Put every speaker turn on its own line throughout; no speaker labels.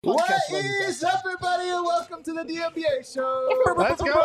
What is up, everybody, and welcome to the DMBA show.
Let's go.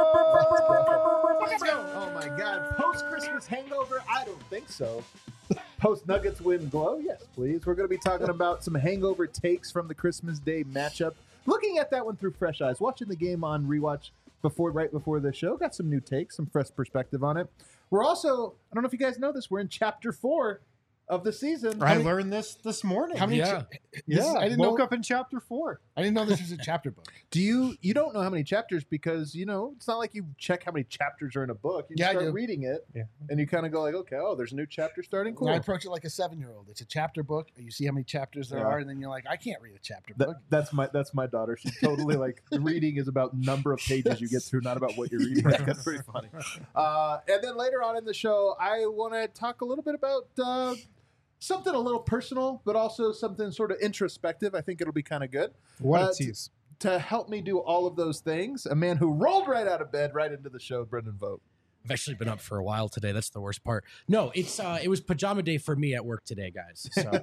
Oh my God! Post-Christmas hangover? I don't think so. Post-Nuggets win glow? Yes, please. We're going to be talking about some hangover takes from the Christmas Day matchup. Looking at that one through fresh eyes. Watching the game on rewatch right before the show. Got some new takes, some fresh perspective on it. We're also, I don't know if you guys know this, we're in Chapter 4 of the season.
I learned this morning.
How many?
I
didn't
woke
know.
up in chapter 4.
I didn't know this was a chapter book.
Do you don't know how many chapters because, it's not like you check how many chapters are in a book. You
Yeah, I
start
do.
reading it,
Yeah.
and you kind of go like, okay, there's a new chapter starting. Cool.
And I approach it like a 7-year-old. It's a chapter book. You see how many chapters there
Yeah.
are, and then you're like, I can't read a chapter book.
That's my daughter. She's totally like reading is about number of pages you get through, not about what you're reading. That's pretty funny. And then later on in the show, I want to talk a little bit about something a little personal, but also something sort of introspective. I think it'll be kind of good.
What
Uh,
a tease.
To help me do all of those things, a man who rolled right out of bed right into the show, Brendan Vogt.
I've actually been up for a while today. That's the worst part. No, it was pajama day for me at work today, guys. So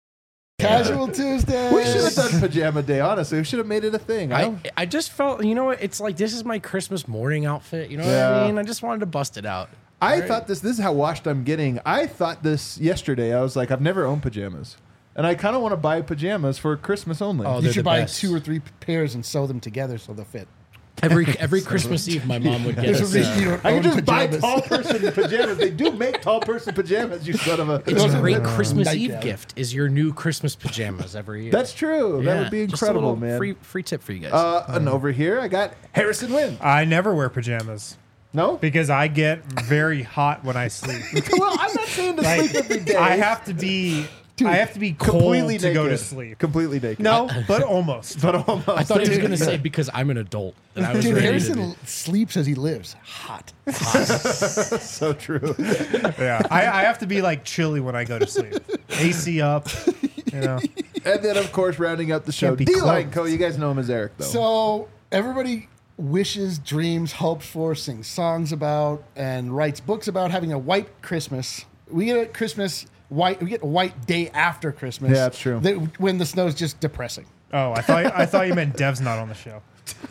Casual Tuesday.
We should have done pajama day, honestly. We should have made it a thing.
I just felt, it's like this is my Christmas morning outfit. You know what
Yeah.
I mean? I just wanted to bust it out.
I thought this is how washed I'm getting. I thought this yesterday. I was like, I've never owned pajamas. And I kind of want to buy pajamas for Christmas only.
Oh,
You
they're
should
the
buy
best.
2 or 3 pairs and sew them together so they'll fit.
Every Christmas Eve, my mom would get
There's a
us.
reason you don't
I
own
can just buy
pajamas.
tall person pajamas. They do make tall person pajamas, you son of a...
It's a great
Nightgown.
Christmas Eve gift. Is your new Christmas pajamas every year?
That's true. That
Yeah,
would be
just a
incredible,
little
man.
Free tip for you guys.
And over here, I got Harrison Wynn.
I never wear pajamas
No?
because I get very hot when I sleep.
Well, I'm not saying to
Like,
sleep every day.
I have to be cold
completely
to
naked.
go to sleep.
Completely naked.
No, but almost.
But almost.
I thought he was going to say because I'm an adult and I was
Dude,
ready
Harrison sleeps as he lives. Hot.
So true.
Yeah, I have to be like chilly when I go to sleep. AC up, you know.
And then, of course, rounding out the show,
Can't be
D-Line
clothed.
Co. You guys know him as Eric, though.
So everybody wishes, dreams, hopes for, sings songs about, and writes books about having a white Christmas. We get a Christmas white. We get a white day after Christmas.
Yeah, that's true.
When the snow's just depressing.
Oh, I thought you meant Dev's not on the show.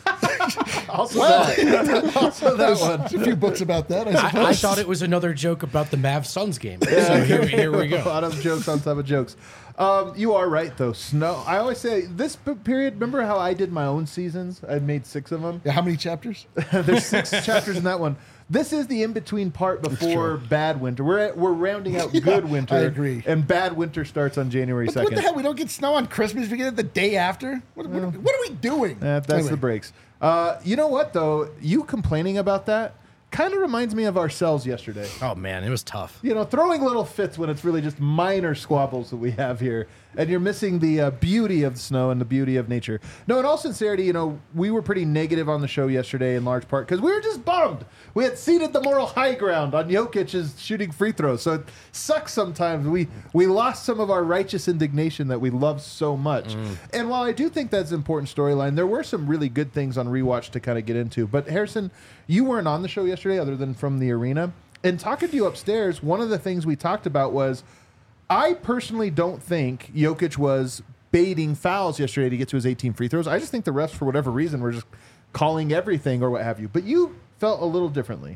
Also that. Also that
There's
one.
a few books about that, I suppose.
I thought it was another joke about the Mavs Suns game. So here we
A
go.
lot of jokes on top of jokes. You are right, though. Snow. I always say this period. Remember how I did my own seasons? I made 6 of them.
Yeah, how many chapters?
There's 6 chapters in that one. This is the in-between part before bad winter. We're rounding out good winter.
I agree.
And bad winter starts on January 2nd.
What the hell? We don't get snow on Christmas. We get it the day after. What are we doing?
That's
Anyway.
the breaks. You know what, though? You complaining about that kind of reminds me of ourselves yesterday.
Oh man, it was tough.
Throwing little fits when it's really just minor squabbles that we have here. And you're missing the beauty of the snow and the beauty of nature. No, in all sincerity, we were pretty negative on the show yesterday in large part because we were just bummed. We had ceded the moral high ground on Jokic's shooting free throws. So it sucks sometimes. We lost some of our righteous indignation that we love so much. And while I do think that's an important storyline, there were some really good things on rewatch to kind of get into. But Harrison, you weren't on the show yesterday other than from the arena. And talking to you upstairs, one of the things we talked about was I personally don't think Jokic was baiting fouls yesterday to get to his 18 free throws. I just think the refs, for whatever reason, were just calling everything or what have you. But you felt a little differently.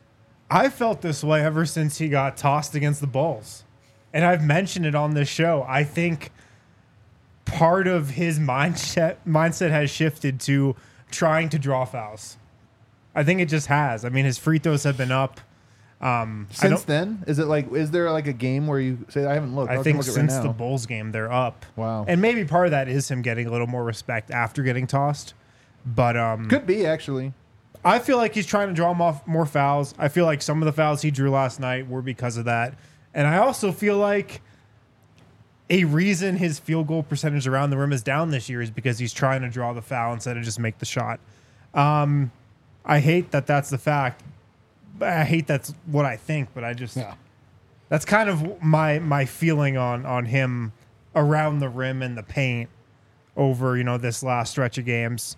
I felt this way ever since he got tossed against the Bulls. And I've mentioned it on this show. I think part of his mindset has shifted to trying to draw fouls. I think it just has. I mean, his free throws have been up.
Since then, is there like a game where you say, I haven't looked?
I
can
think
look at it
since
right
the
now.
Bulls game, they're up.
Wow.
And maybe part of that is him getting a little more respect after getting tossed. But
Could be, actually.
I feel like he's trying to draw more fouls. I feel like some of the fouls he drew last night were because of that. And I also feel like a reason his field goal percentage around the rim is down this year is because he's trying to draw the foul instead of just make the shot. I hate that that's the fact. I hate that's what I think, but I just that's kind of my feeling on him around the rim and the paint over this last stretch of games.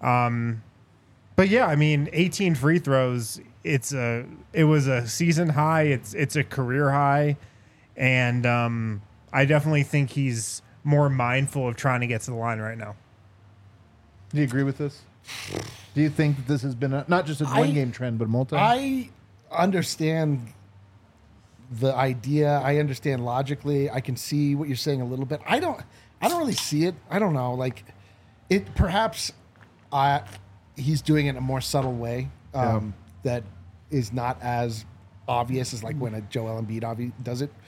But yeah, I mean, 18 free throws. It was a season high. It's a career high, and I definitely think he's more mindful of trying to get to the line right now.
Do you agree with this? Do you think that this has been not just a one-game trend, but multi?
I understand the idea. I understand logically. I can see what you're saying a little bit. I don't really see it. I don't know. Like it. Perhaps he's doing it in a more subtle way that is not as obvious as like when a Joel Embiid does it.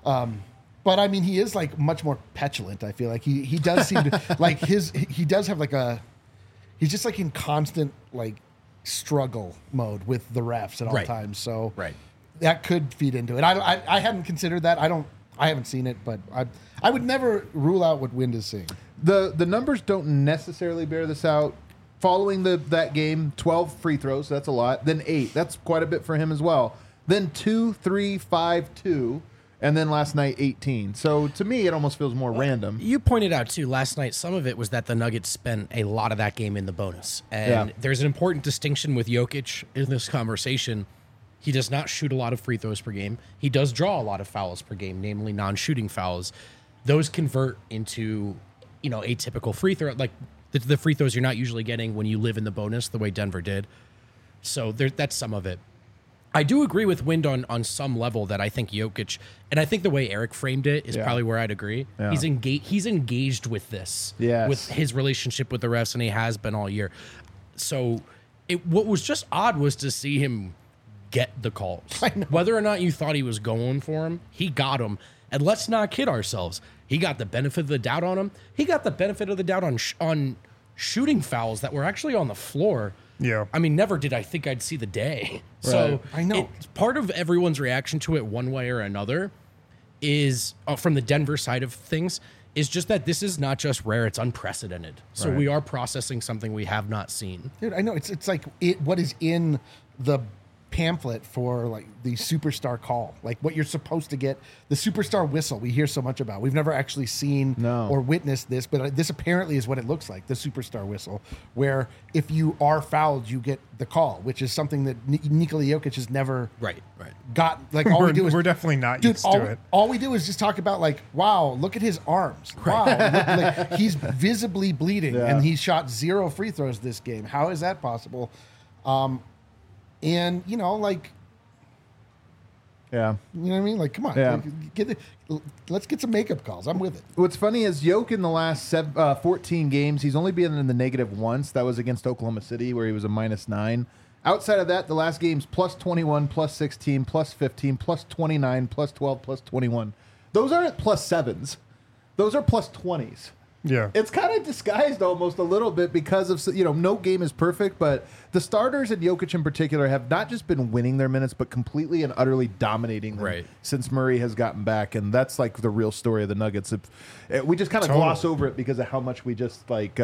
But I mean, he is like much more petulant. I feel like he does seem to like he does have like he's just like in constant like struggle mode with the refs at all times. So that could feed into it. I hadn't considered that. I haven't seen it, but I would never rule out what Wind is seeing.
The numbers don't necessarily bear this out. Following that game, 12 free throws, that's a lot. Then 8, that's quite a bit for him as well. Then 2, 3, 5, 2, and then last night 18. So to me, it almost feels more random.
You pointed out too last night, some of it was that the Nuggets spent a lot of that game in the bonus. And there's an important distinction with Jokic in this conversation. He does not shoot a lot of free throws per game. He does draw a lot of fouls per game, namely non-shooting fouls. Those convert into, atypical free throw, like the free throws you're not usually getting when you live in the bonus the way Denver did. So that's some of it. I do agree with Wind on some level that I think Jokic, and I think the way Eric framed it is probably where I'd agree. Yeah. He's engaged with this, with his relationship with the refs, and he has been all year. So what was just odd was to see him get the calls. Whether or not you thought he was going for him, he got him. And let's not kid ourselves. He got the benefit of the doubt on him. He got the benefit of the doubt on shooting fouls that were actually on the floor.
Yeah.
I mean, never did I think I'd see the day. Right. So
I know.
Part of everyone's reaction to it one way or another is, from the Denver side of things, is just that this is not just rare, it's unprecedented. So we are processing something we have not seen.
Dude, I know. It's like what is in the pamphlet for like the superstar call, like what you're supposed to get, the superstar whistle we hear so much about. We've never actually seen or witnessed this, but this apparently is what it looks like, the superstar whistle, where if you are fouled, you get the call, which is something that Nikola Jokic has never got. Like all we do is
we're definitely not used to it.
All we do is just talk about like, wow, look at his arms. Wow, like, he's visibly bleeding and he shot 0 free throws this game. How is that possible? And like, you know what I mean? Like, come on, let's get some makeup calls. I'm with it.
What's funny is Jokic in the last 14 games, he's only been in the negative once. That was against Oklahoma City, where he was a -9. Outside of that, the last game's +21, +16, +15, +29, +12, +21. Those aren't +7s. Those are +20s.
Yeah.
It's kind of disguised almost a little bit because of, no game is perfect, but the starters and Jokic in particular have not just been winning their minutes, but completely and utterly dominating them since Murray has gotten back. And that's like the real story of the Nuggets. We just kind of gloss over it because of how much we just like,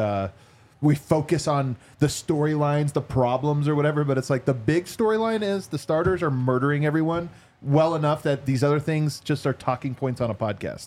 we focus on the storylines, the problems or whatever. But it's like the big storyline is the starters are murdering everyone well enough that these other things just are talking points on a podcast.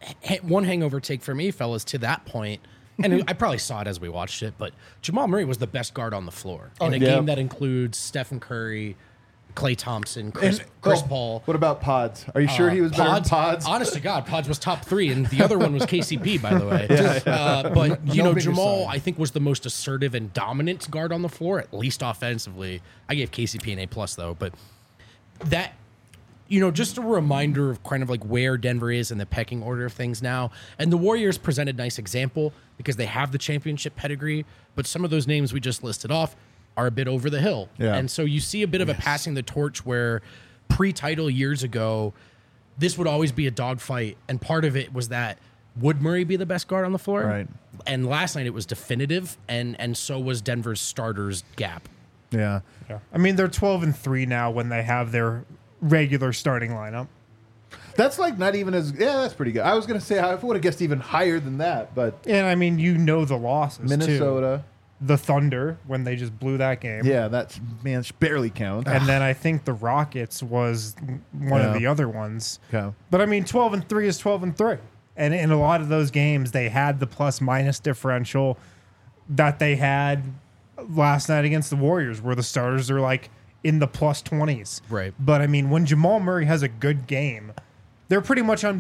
One hangover take for me, fellas, to that point, and I probably saw it as we watched it, but Jamal Murray was the best guard on the floor in a game that includes Stephen Curry, Klay Thompson, Chris Paul.
What about Pods? Are you sure he was better than Pods?
Honest to God, Pods was top 3, and the other one was KCP, by the way. But, Jamal, I think, was the most assertive and dominant guard on the floor, at least offensively. I gave KCP an A+, though, but that... just a reminder of kind of like where Denver is in the pecking order of things now. And the Warriors present a nice example because they have the championship pedigree, but some of those names we just listed off are a bit over the hill. Yeah. And so you see a bit of a passing the torch where pre-title years ago, this would always be a dogfight. And part of it was that would Murray be the best guard on the floor?
Right.
And last night it was definitive, and so was Denver's starters gap.
Yeah.
I mean, they're 12-3 now when they have their regular starting lineup.
That's like not even as that's pretty good. I was gonna say I would have guessed even higher than that, but
and I mean the losses
Minnesota,
the Thunder when they just blew that game.
Yeah, that's barely counts.
And then I think the Rockets was one of the other ones.
Okay.
But I mean 12-3 is 12-3, and in a lot of those games they had the plus-minus differential that they had last night against the Warriors, where the starters are like in the +20s.
Right.
But I mean, when Jamal Murray has a good game, they're pretty much unbeatable.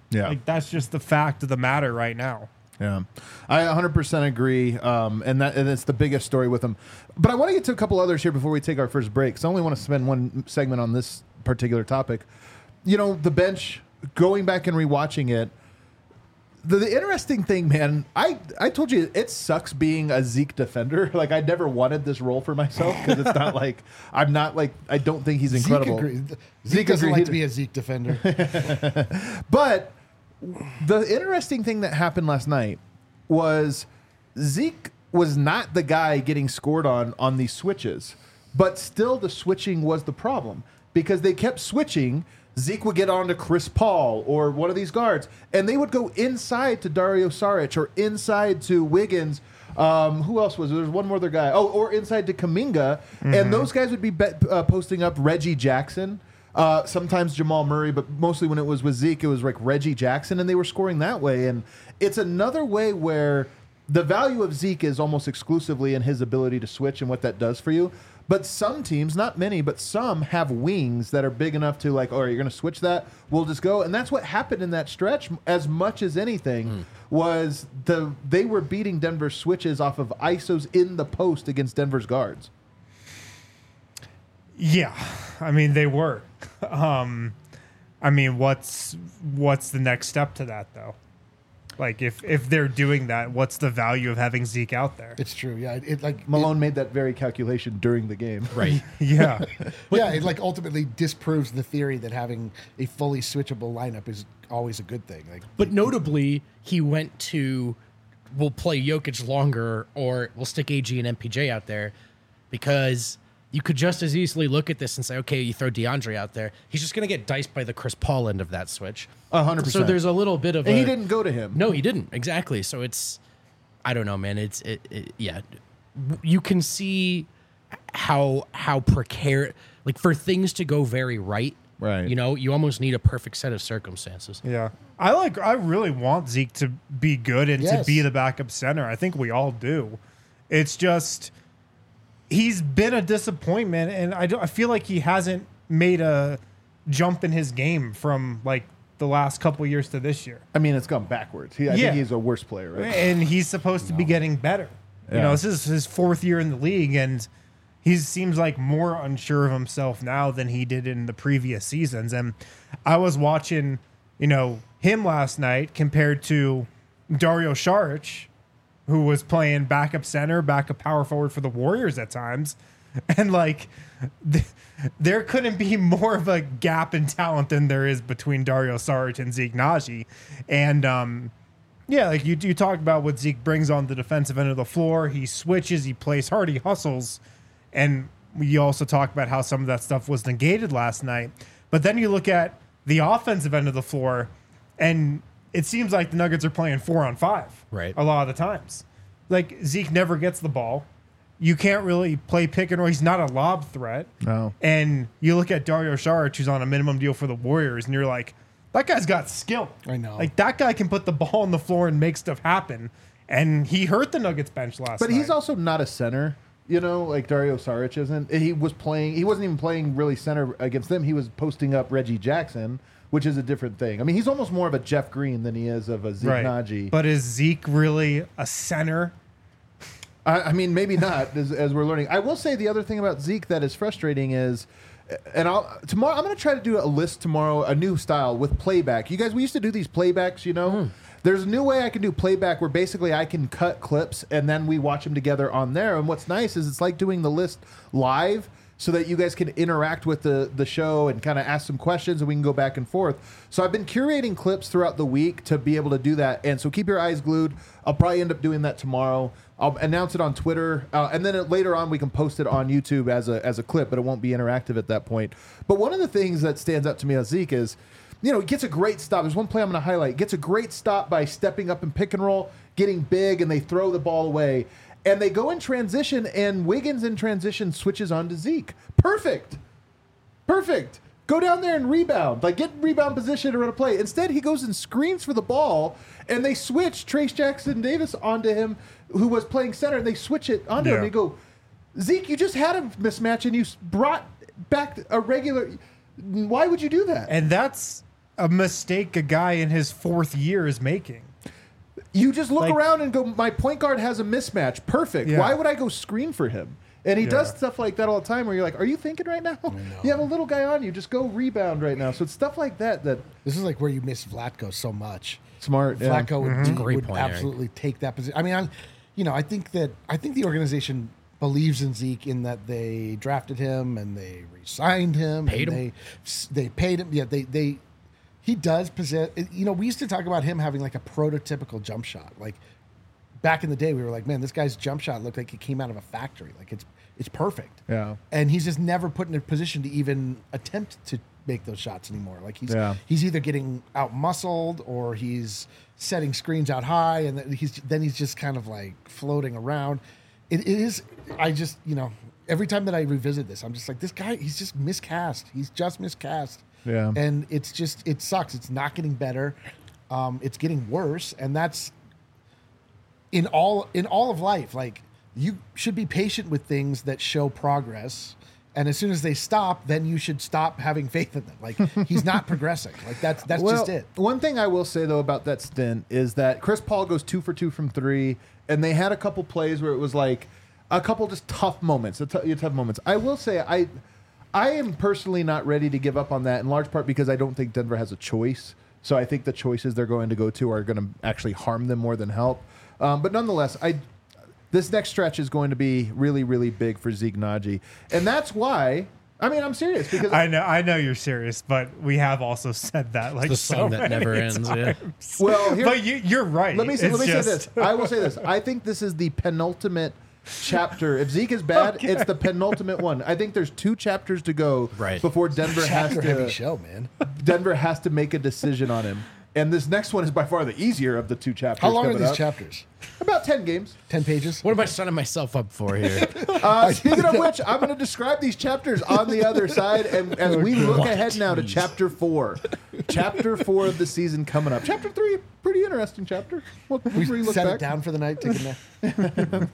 Yeah.
Like, that's just the fact of the matter right now.
Yeah, I 100% agree, and it's the biggest story with him. But I want to get to a couple others here before we take our first break. So I only want to spend one segment on this particular topic. You know, the bench, going back and rewatching it, the interesting thing, man, I told you it sucks being a Zeke defender. Like, I never wanted this role for myself because it's not like, I don't think he's incredible.
Zeke doesn't like to be a Zeke defender.
But the interesting thing that happened last night was Zeke was not the guy getting scored on these switches, but still the switching was the problem because they kept switching. Zeke would get on to Chris Paul or one of these guards, and they would go inside to Dario Saric or inside to Wiggins. Who else was there? There's one more other guy. Oh, or inside to Kuminga, and those guys would be posting up Reggie Jackson. Sometimes Jamal Murray, but mostly when it was with Zeke, it was like Reggie Jackson, and they were scoring that way. And it's another way where the value of Zeke is almost exclusively in his ability to switch and what that does for you. But some teams, not many, but some have wings that are big enough to like, oh, you're going to switch that? We'll just go. And that's what happened in that stretch as much as anything was they were beating Denver's switches off of ISOs in the post against Denver's guards.
Yeah, I mean, they were. I mean, what's the next step to that, though? Like, if they're doing that, what's the value of having Zeke out there?
It's true. Yeah,
Malone made that very calculation during the game.
Right.
Yeah.
It like ultimately disproves the theory that having a fully switchable lineup is always a good thing. Like,
But notably, he went to, we'll play Jokic longer, or we'll stick AG and MPJ out there, because you could just as easily look at this and say, okay, you throw DeAndre out there. He's just going to get diced by the Chris Paul end of that switch.
100%.
So there's a little bit of
and he didn't go to him.
No, he didn't. Exactly. So it's, I don't know, man. Yeah. You can see how precarious, like for things to go very right.
Right.
You know, you almost need a perfect set of circumstances.
Yeah. I really want Zeke to be good and to be the backup center. I think we all do. It's just, he's been a disappointment, and I feel like he hasn't made a jump in his game from like the last couple of years to this year.
I mean, it's gone backwards. I think he's a worse player, right?
And he's supposed to be getting better. You know, this is his fourth year in the league, and he seems like more unsure of himself now than he did in the previous seasons. And I was watching, you know, him last night compared to Dario Saric, who was playing backup center, backup power forward for the Warriors at times. And like, there couldn't be more of a gap in talent than there is between Dario Saric and Zeke Naji. And like you talk about what Zeke brings on the defensive end of the floor. He switches, he plays hard, he hustles. And you also talk about how some of that stuff was negated last night. But then you look at the offensive end of the floor, and it seems like the Nuggets are playing 4-on-5
Right.
a lot of the times. Like, Zeke never gets the ball. You can't really play pick and roll. He's not a lob threat.
No.
And you look at Dario Saric, who's on a minimum deal for the Warriors, and you're like, that guy's got skill.
I know.
Like, that guy can put the ball on the floor and make stuff happen. And he hurt the Nuggets bench last night.
But he's also not a center, you know, like Dario Saric isn't. He wasn't even playing really center against them. He was posting up Reggie Jackson, which is a different thing. I mean, he's almost more of a Jeff Green than he is of a Zeke Naji.
But is Zeke really a center?
I mean, maybe not, as we're learning. I will say the other thing about Zeke that is frustrating is, and tomorrow I'm going to try to do a list tomorrow, a new style with playback. You guys, we used to do these playbacks, you know. There's a new way I can do playback where basically I can cut clips and then we watch them together on there. And what's nice is it's like doing the list live, so that you guys can interact with the show and kind of ask some questions and we can go back and forth. So I've been curating clips throughout the week to be able to do that. And so keep your eyes glued. I'll probably end up doing that tomorrow. I'll announce it on Twitter. And then later on, we can post it on YouTube as a clip, but it won't be interactive at that point. But one of the things that stands out to me on Zeke is, you know, he gets a great stop. There's one play I'm going to highlight. Gets a great stop by stepping up in pick and roll, getting big, and they throw the ball away. And they go in transition, and Wiggins in transition switches on to Zeke. Perfect. Go down there and rebound. Like, get rebound position to run a play. Instead, he goes and screens for the ball, and they switch Trace Jackson Davis onto him, who was playing center, and they switch it onto him. And they go, Zeke, you just had a mismatch, and you brought back a regular. Why would you do that?
And that's a mistake a guy in his 4th year is making.
You just look
Like-
around and go, my point guard has a mismatch. Perfect.
Yeah.
Why would I go screen for him? And he does
Yeah.
stuff like that all the time where you're like, are you thinking right now? You have a little guy on you. Just go rebound right now. So it's stuff like that that
This is like where you miss Vlatko so much.
smart. Yeah.
Flacco would,
Great
would
point, Eric.
absolutely take that position. I mean, I think the organization believes in Zeke in that they drafted him and they re-signed him.
Paid
and
him.
They paid him. Yeah, he does possess. We used to talk about him having like a prototypical jump shot. Like back in the day, we were like, man, this guy's jump shot looked like it came out of a factory. Like it's perfect.
Yeah.
And he's just never put in a position to even attempt to make those shots anymore. Like he's either getting out muscled or he's setting screens out high, and then he's just kind of like floating around. It is. I just every time that I revisit this, I'm just like, this guy. He's just miscast. He's just miscast.
Yeah.
And it sucks. It's not getting better. It's getting worse, and that's in all of life. Like, you should be patient with things that show progress, and as soon as they stop, then you should stop having faith in them. Like, he's not progressing. Like, that's just it.
One thing I will say though about that stint is that Chris Paul goes 2 for 2 from 3, and they had a couple plays where it was like a couple just tough moments. Tough moments. I will say I am personally not ready to give up on that, in large part because I don't think Denver has a choice. So I think the choices they're going to go to are going to actually harm them more than help. But nonetheless, this next stretch is going to be really, really big for Zeke Naji. And that's why, I mean, I'm serious because
I know you're serious, but we have also said that like
The
so
song that
many
never ends. Yeah.
times.
Well, here-
but you're right.
Let me say
It's
say
just-
this. I will say this. I think this is the penultimate chapter. If Zeke is bad, it's the penultimate one. I think there's 2 chapters to go
Right.
before Denver has
Chapter heavy
to
show, man.
Denver has to make a decision on him. And this next one is by far the easier of the 2 chapters.
How long are
coming
these
up.
chapters?
About 10 games.
10 pages.
What am I signing myself up for here?
Speaking of which, I'm going to describe these chapters on the other side, and as we look ahead now to chapter 4. Chapter 4 of the season coming up. Chapter 3, pretty interesting chapter. We'll
We
look
set
back.
it down for the night. Take a nap.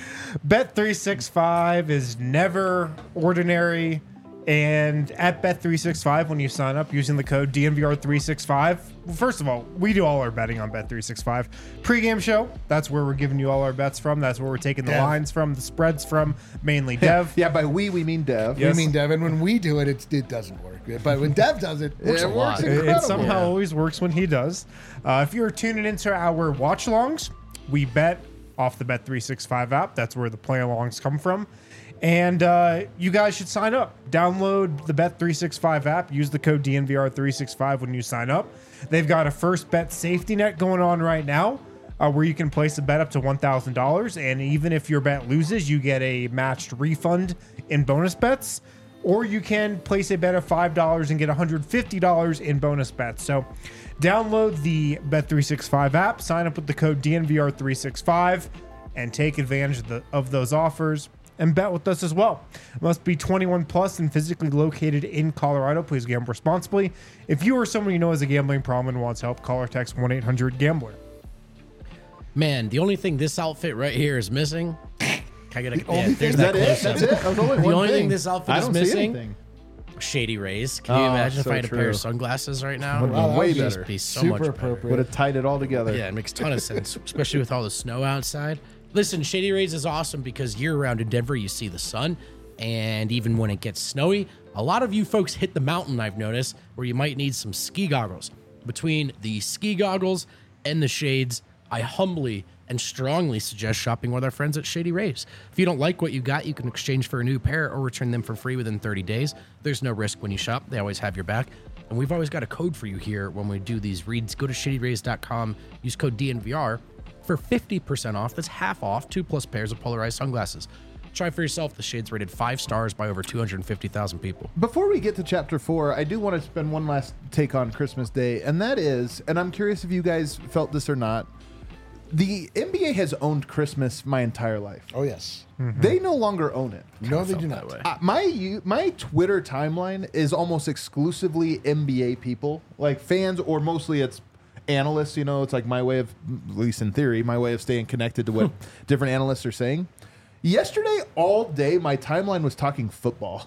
Bet365 is never ordinary. And at Bet365, when you sign up using the code DNVR365, first of all, we do all our betting on Bet365. Pre-game show, that's where we're giving you all our bets from. That's where we're taking the
Dev.
lines from, the spreads from, mainly Dev.
Yeah, by we mean Dev.
Yes.
I mean, Devin, when we do it, it doesn't work. But when Dev does it, it works
It
a
works
lot.
incredible.
It somehow always works when he does. If you're tuning into our watch-alongs, we bet off the Bet365 app. That's where the play-alongs come from. And you guys should sign up. Download the Bet365 app. Use the code DNVR365 when you sign up. They've got a first bet safety net going on right now where you can place a bet up to $1,000. And even if your bet loses, you get a matched refund in bonus bets. Or you can place a bet of $5 and get $150 in bonus bets. So download the Bet365 app, sign up with the code DNVR365, and take advantage of those offers. And bet with us as well. Must be 21 plus and physically located in Colorado. Please gamble responsibly. If you or someone you know has a gambling problem and wants help, call or text 1-800-GAMBLER.
Man, the only thing this outfit right here is missing. Can I get a,
only
there's
Is that it?
close-up.
That's it? That was only
The
one
only thing
thing.
this outfit
I
is
don't see
missing-
anything.
Shady Rays. Can you
Oh,
imagine if
so
I had a pair
true.
of sunglasses right now?
Would've been
Wow, that
way
would
better.
just
Be so
super
much better.
appropriate.
Would have tied it all together.
Yeah, it makes a ton of sense, especially with all the snow outside. Listen, Shady Rays is awesome because year-round in Denver, you see the sun, and even when it gets snowy, a lot of you folks hit the mountain, I've noticed, where you might need some ski goggles. Between the ski goggles and the shades, I humbly and strongly suggest shopping with our friends at Shady Rays. If you don't like what you got, you can exchange for a new pair or return them for free within 30 days. There's no risk when you shop. They always have your back. And we've always got a code for you here when we do these reads. Go to shadyrays.com, use code DNVR for 50% off. That's half off 2+ pairs of polarized sunglasses. Try for yourself. The shade's rated 5 stars by over 250,000 people.
Before we get to chapter 4, I do want to spend one last take on Christmas Day, and that is, and I'm curious if you guys felt this or not, the NBA has owned Christmas my entire life.
Oh, yes.
They no longer own it.
No, they do
Felt
not.
that way.
My Twitter timeline is almost exclusively NBA people, like fans, or mostly it's analysts. You know, it's like my way of, at least in theory, my way of staying connected to what different analysts are saying. Yesterday, all day, my timeline was talking football.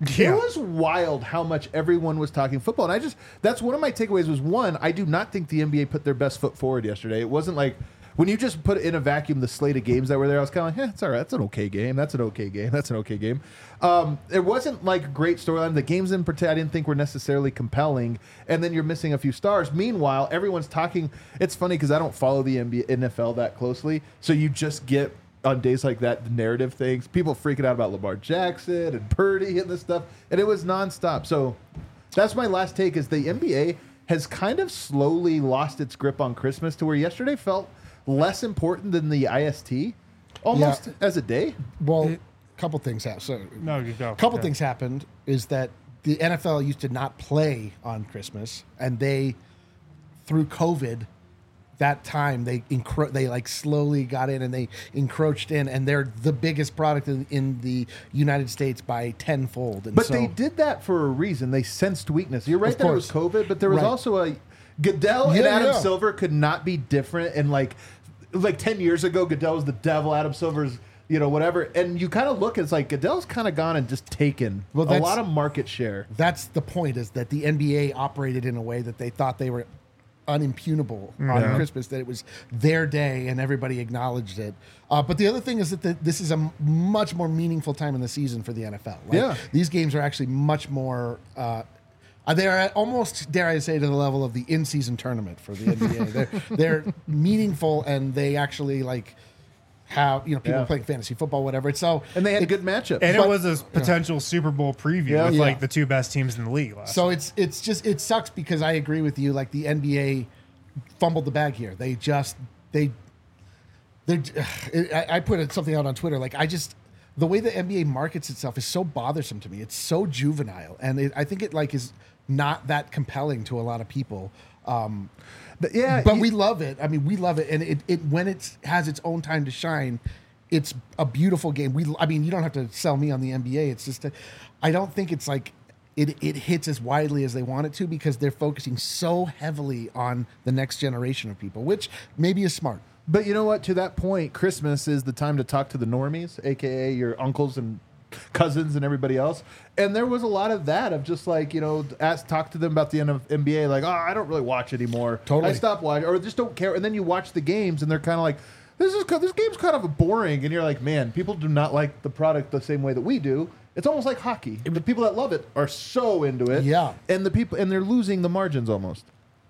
Yeah.
It was wild how much everyone was talking football. And that's one of my takeaways was, one, I do not think the NBA put their best foot forward yesterday. It wasn't like, when you just put in a vacuum the slate of games that were there, I was kind of like, it's all right. That's an okay game. That's an okay game. That's an okay game. It wasn't like a great storyline. The games in particular I didn't think were necessarily compelling. And then you're missing a few stars. Meanwhile, everyone's talking. It's funny because I don't follow the NFL that closely. So you just get, on days like that, the narrative things. People freaking out about Lamar Jackson and Purdy and this stuff. And it was nonstop. So that's my last take is the NBA has kind of slowly lost its grip on Christmas to where yesterday felt less important than the IST almost as a day.
Well, a couple things happened. So,
No, you go.
a couple
Yeah.
things happened is that the NFL used to not play on Christmas, and they, through COVID, that time they like slowly got in and they encroached in, and they're the biggest product in the United States by tenfold. And
But
so,
they did that for a reason. They sensed weakness. You're right
Of
that it was
course.
COVID, but there was
Right.
also a Goodell and
Yeah,
Adam
yeah.
Silver could not be different. And like 10 years ago, Goodell was the devil, Adam Silver's, whatever. And you kind of look, it's like Goodell's kind of gone and just taken a
that's-
lot of market share.
that's the point, is that the NBA operated in a way that they thought they were unimpugnable on Christmas, that it was their day and everybody acknowledged it. But the other thing is that this is a much more meaningful time in the season for the NFL. These games are actually much more. They're at almost, dare I say, to the level of the in-season tournament for the NBA. they're meaningful, and they actually have people playing fantasy football, whatever. So
And they had good matchups.
And
But-
it was a potential Super Bowl preview with
Yeah.
the two best teams in the league last.
So it's just, it sucks because I agree with you. Like, the NBA fumbled the bag here. I put something out on Twitter. Like, the way the NBA markets itself is so bothersome to me. It's so juvenile, and I think it is not that compelling to a lot of people. But we love it. I mean, we love it, and it when it has its own time to shine, it's a beautiful game. You don't have to sell me on the NBA. It's just, I don't think it's like it hits as widely as they want it to, because they're focusing so heavily on the next generation of people, which maybe is smart.
But you know what? To that point, Christmas is the time to talk to the normies, a.k.a. your uncles and cousins and everybody else. And there was a lot of that, of just talk to them about the NBA, like, oh, I don't really watch anymore.
Totally.
I stopped watching, or just don't care. And then you watch the games, and they're kind of like, this game's kind of boring. And you're like, man, people do not like the product the same way that we do. It's almost like hockey. The people that love it are so into it.
Yeah.
And they're losing the margins almost.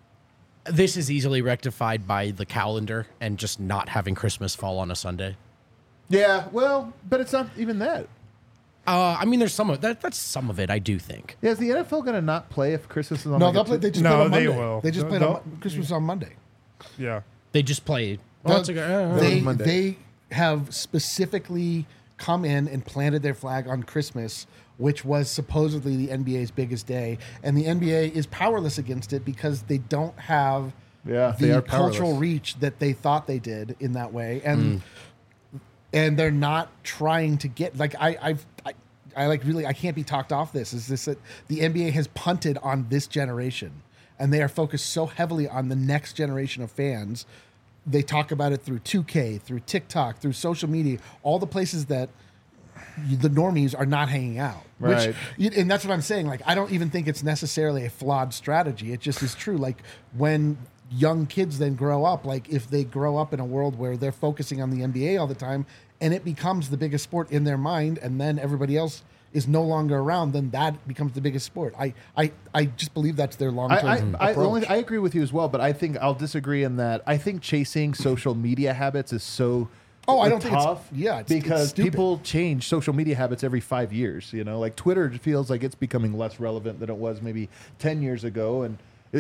This is easily rectified by the calendar and just not having Christmas fall on a Sunday.
Yeah, well, but it's not even that.
There's some of that. That's some of it, I do think.
Yeah, is the NFL going to not play if Christmas is on
No,
like
they'll play. They just
No,
played on
they
Monday.
will.
They just played
They'll-
on Christmas on Monday.
yeah.
They just play. Well, it's like,
Monday.
They have specifically come in and planted their flag on Christmas, which was supposedly the NBA's biggest day, and the NBA is powerless against it because they don't have
They are
the
powerless.
cultural reach that they thought they did in that way, and they're not trying to get I can't be talked off this. Is this that the NBA has punted on this generation, and they are focused so heavily on the next generation of fans. They talk about it through 2K, through TikTok, through social media, all the places that the normies are not hanging out.
Right.
And that's what I'm saying. Like, I don't even think it's necessarily a flawed strategy. It just is true. Like, when young kids then grow up, like if they grow up in a world where they're focusing on the NBA all the time and it becomes the biggest sport in their mind, and then everybody else is no longer around, then that becomes the biggest sport. I just believe that's their long-term approach.
I agree with you as well, but I think I'll disagree in that I think chasing social media habits is so
I don't think
tough.
it's
because
stupid.
people change social media habits every 5 years. Like Twitter feels like it's becoming less relevant than it was maybe 10 years ago, and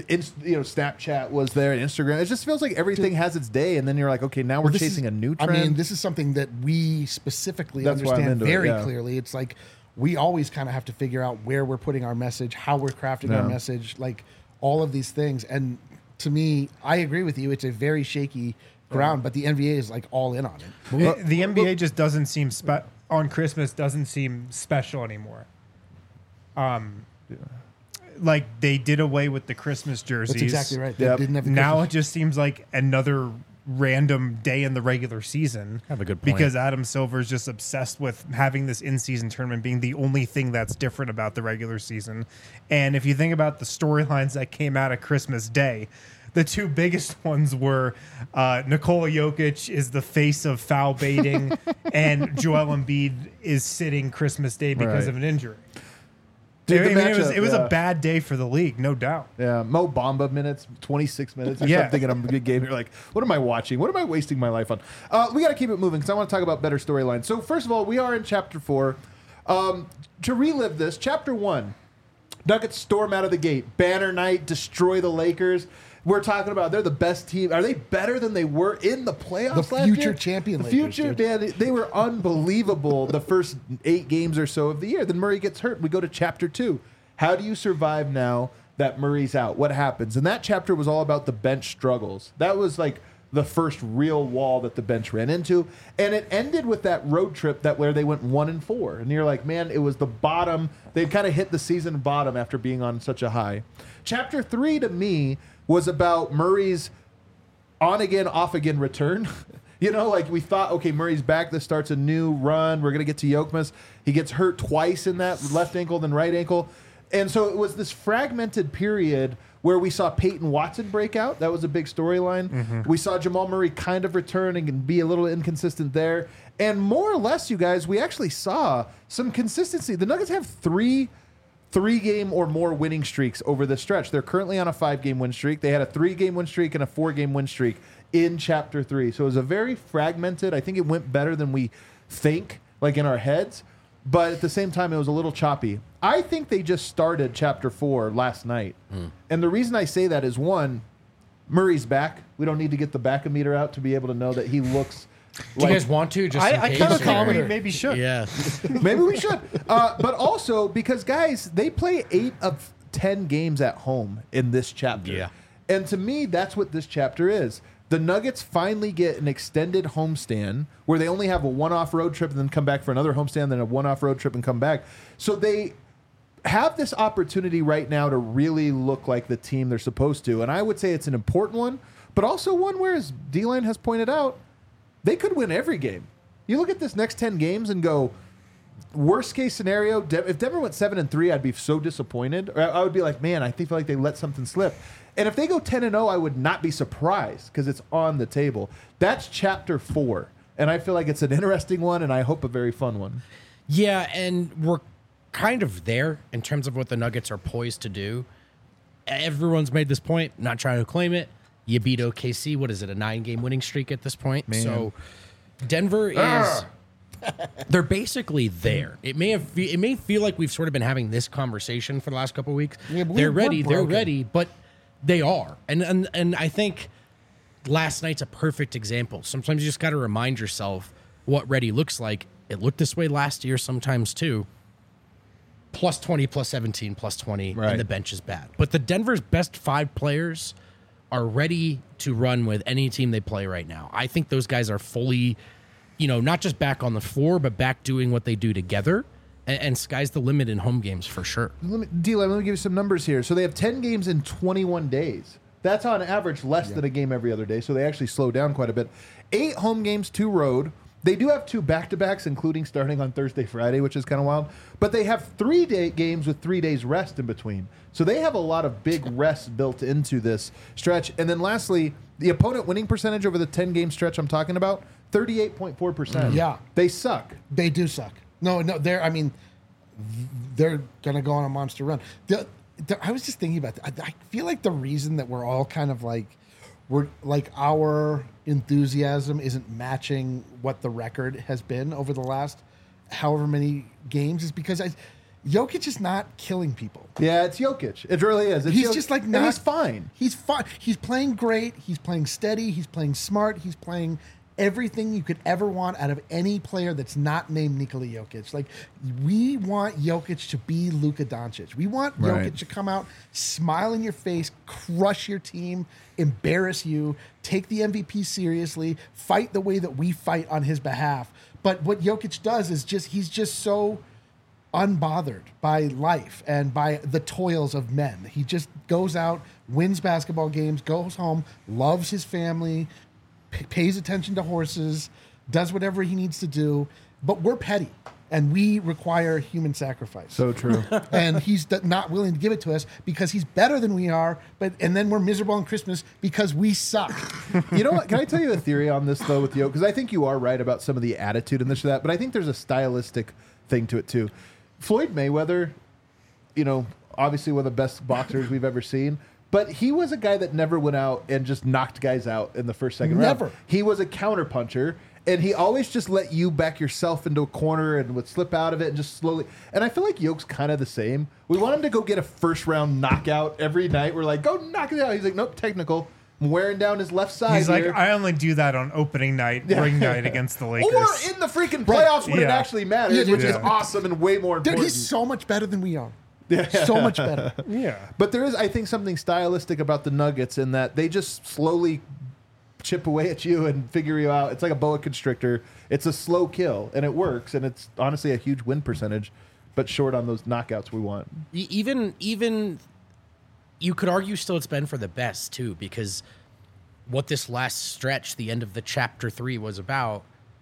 Snapchat was there, and Instagram. It just feels like everything has its day, and then you're like, okay, now we're
This
chasing
is-
a new trend.
I mean, this is something that we specifically
That's why I'm
understand
into it,
very
yeah.
clearly. It's like we always kind of have to figure out where we're putting our message, how we're crafting our
Yeah.
message, like all of these things. And to me, I agree with you. It's a very shaky ground, but the NBA is like all in on it.
The NBA just doesn't seem on Christmas doesn't seem special anymore. Like they did away with the Christmas jerseys.
That's exactly right. They
Yep.
didn't have the
Now
Christmas-
it just seems like another random day in the regular season.
Have a good point.
Because Adam Silver is just obsessed with having this in-season tournament being the only thing that's different about the regular season. And if you think about the storylines that came out of Christmas Day, the two biggest ones were Nikola Jokic is the face of foul baiting, and Joel Embiid is sitting Christmas Day because
Right.
of an injury.
Dude, the
it was
matchup,
a bad day for the league, no doubt.
Yeah, Mo Bamba minutes, 26 minutes. I
Yeah.
start thinking I'm a good game. You're like, what am I watching? What am I wasting my life on? We got to keep it moving because I want to talk about better storylines. So first of all, we are in Chapter 4. To relive this, Chapter 1, Nuggets storm out of the gate. Banner night, destroy the Lakers. We're talking about they're the best team. Are they better than they were in the playoffs
The
last
future
year?
champion
The
Lakers,
future,
dude.
man, they were unbelievable the first 8 games or so of the year. Then Murray gets hurt. We go to Chapter 2. How do you survive now that Murray's out? What happens? And that chapter was all about the bench struggles. That was like the first real wall that the bench ran into. And it ended with that road trip where they went 1-4. And you're like, man, it was the bottom. They kind of hit the season bottom after being on such a high. Chapter 3 to me was about Murray's on again, off again return. You know, like we thought, okay, Murray's back. This starts a new run. We're going to get to Yokmas. He gets hurt twice in that left ankle, then right ankle. And so it was this fragmented period where we saw Peyton Watson break out. That was a big storyline. We saw Jamal Murray kind of return and be a little inconsistent there. And more or less, you guys, we actually saw some consistency. The Nuggets have three-game or more winning streaks over the stretch. They're currently on a 5-game win streak. They had a 3-game win streak and a 4-game win streak in Chapter 3. So it was a very fragmented. I think it went better than we think, like in our heads. But at the same time, it was a little choppy. I think they just started Chapter 4 last night. And the reason I say that is, one, Murray's back. We don't need to get the back-o-meter out to be able to know that he looks
Do you guys want to? Just in
I
case,
kind of
or-
thought we maybe should.
Yeah.
Maybe we should. But also, because, guys, they play 8 of 10 games at home in this chapter.
Yeah.
And to me, that's what this chapter is. The Nuggets finally get an extended homestand where they only have a one-off road trip and then come back for another homestand, then a one-off road trip and come back. So they have this opportunity right now to really look like the team they're supposed to. And I would say it's an important one, but also one where, as D-Line has pointed out, they could win every game. You look at this next 10 games and go, worst case scenario, if Denver went 7-3, I'd be so disappointed. Or I would be like, man, I feel like they let something slip. And if they go 10-0, I would not be surprised because it's on the table. That's Chapter 4. And I feel like it's an interesting one, and I hope a very fun one.
Yeah, and we're kind of there in terms of what the Nuggets are poised to do. Everyone's made this point, not trying to claim it. You beat OKC. What is it, a 9-game winning streak at this point?
Man.
So Denver is... They're basically there. It may feel like we've sort of been having this conversation for the last couple of weeks.
Yeah, but
they're
we're
ready. They're
broken.
ready, but they are. And I think last night's a perfect example. Sometimes you just got to remind yourself what ready looks like. It looked this way last year sometimes too. Plus 20, plus 17, plus 20,
Right.
and the bench is bad. But the Denver's best 5 players are ready to run with any team they play right now. I think those guys are fully, not just back on the floor, but back doing what they do together. And sky's the limit in home games for sure.
D-Line, let me give you some numbers here. So they have 10 games in 21 days. That's on average less than a game every other day. So they actually slow down quite a bit. 8 home games, 2 road. They do have 2 back-to-backs, including starting on Thursday, Friday, which is kind of wild. But they have 3 games with 3 days rest in between. So they have a lot of big rest built into this stretch. And then lastly, the opponent winning percentage over the 10-game stretch I'm talking about, 38.4%.
Yeah.
They suck.
They do suck. No, they're going to go on a monster run. I was just thinking about that. I feel like the reason that we're all kind of our enthusiasm isn't matching what the record has been over the last however many games is because Jokic is not killing people.
Yeah, it's Jokic. It really is. It's
He's
Jokic.
just like
And
not.
he's fine.
He's fine. He's playing great. He's playing steady. He's playing smart. He's playing everything you could ever want out of any player that's not named Nikola Jokic. Like, we want Jokic to be Luka Doncic. We want
Right.
Jokic to come out, smile in your face, crush your team, embarrass you, take the MVP seriously, fight the way that we fight on his behalf. But what Jokic does is he's just so unbothered by life and by the toils of men. He just goes out, wins basketball games, goes home, loves his family, pays attention to horses, does whatever he needs to do. But we're petty, and we require human sacrifice.
So true.
And he's not willing to give it to us because he's better than we are. And then we're miserable on Christmas because we suck.
You know what? Can I tell you a theory on this, though, with Yoke? Because I think you are right about some of the attitude and this or that, but I think there's a stylistic thing to it, too. Floyd Mayweather, obviously one of the best boxers we've ever seen, but he was a guy that never went out and just knocked guys out in the first, second round.
Never.
He was a counterpuncher, and he always just let you back yourself into a corner and would slip out of it and just slowly. And I feel like Yoke's kind of the same. We want him to go get a first-round knockout every night. We're like, go knock it out. He's like, nope, technical. I'm wearing down his left side.
He's
here.
like, I only do that on opening night, ring night against the Lakers.
Or in the freaking playoffs when it
Yeah.
actually matters,
Yeah,
which is
yeah.
awesome and way more
Dude,
important.
he's so much better than we are. So much better.
Yeah.
But there is, I think, something stylistic about the Nuggets in that they just slowly chip away at you and figure you out. It's like a boa constrictor. It's a slow kill, and it works, and it's honestly a huge win percentage, but short on those knockouts we want.
Even you could argue still it's been for the best too, because what this last stretch, the end of the chapter 3 was about,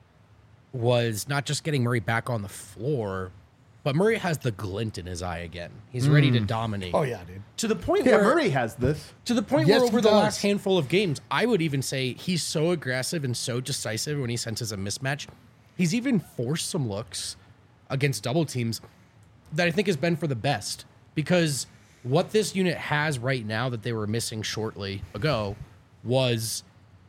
was not just getting Murray back on the floor, but Murray has the glint in his eye again. He's ready to dominate.
Oh, yeah, dude.
To the point
Yeah,
where
Murray has this.
To the point
Yes,
where
he
over the
does.
last handful of games, I would even say he's so aggressive and so decisive when he senses a mismatch. He's even forced some looks against double teams that I think has been for the best, because what this unit has right now that they were missing shortly ago was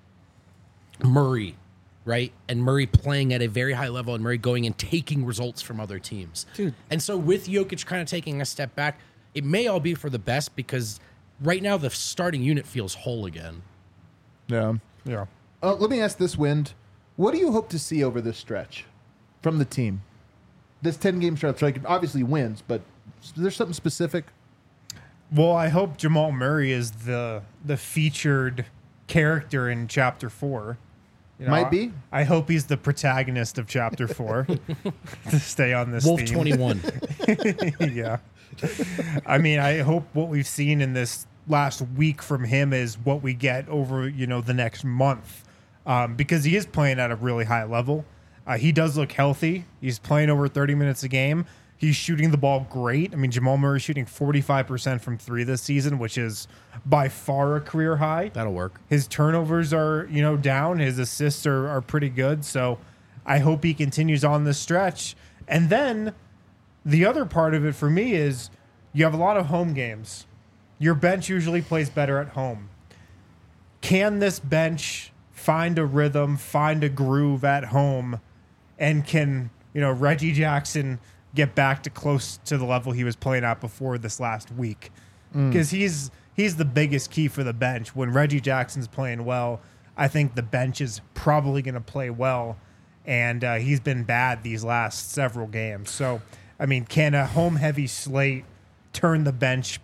Murray, right? And Murray playing at a very high level and Murray going and taking results from other teams.
Dude.
And so with Jokic kind of taking a step back, it may all be for the best, because right now the starting unit feels whole again.
Yeah.
Yeah.
Let me ask this, Wind. What do you hope to see over this stretch from the team? This 10-game stretch, like obviously wins, but is there something specific?
Well, I hope Jamal Murray is the featured character in Chapter 4.
Might be.
I hope he's the protagonist of Chapter 4 to stay on this
Wolf
theme.
21.
Yeah. I mean, I hope what we've seen in this last week from him is what we get over, the next month, because he is playing at a really high level. He does look healthy. He's playing over 30 minutes a game. He's shooting the ball great. I mean, Jamal Murray shooting 45% from 3 this season, which is by far a career high.
That'll work.
His turnovers are, down. His assists are pretty good. So I hope he continues on this stretch. And then the other part of it for me is you have a lot of home games. Your bench usually plays better at home. Can this bench find a rhythm, find a groove at home, and can, Reggie Jackson get back to close to the level he was playing at before this last week? Because he's the biggest key for the bench. When Reggie Jackson's playing well, I think the bench is probably going to play well, and he's been bad these last several games. So, I mean, can a home-heavy slate turn the bench,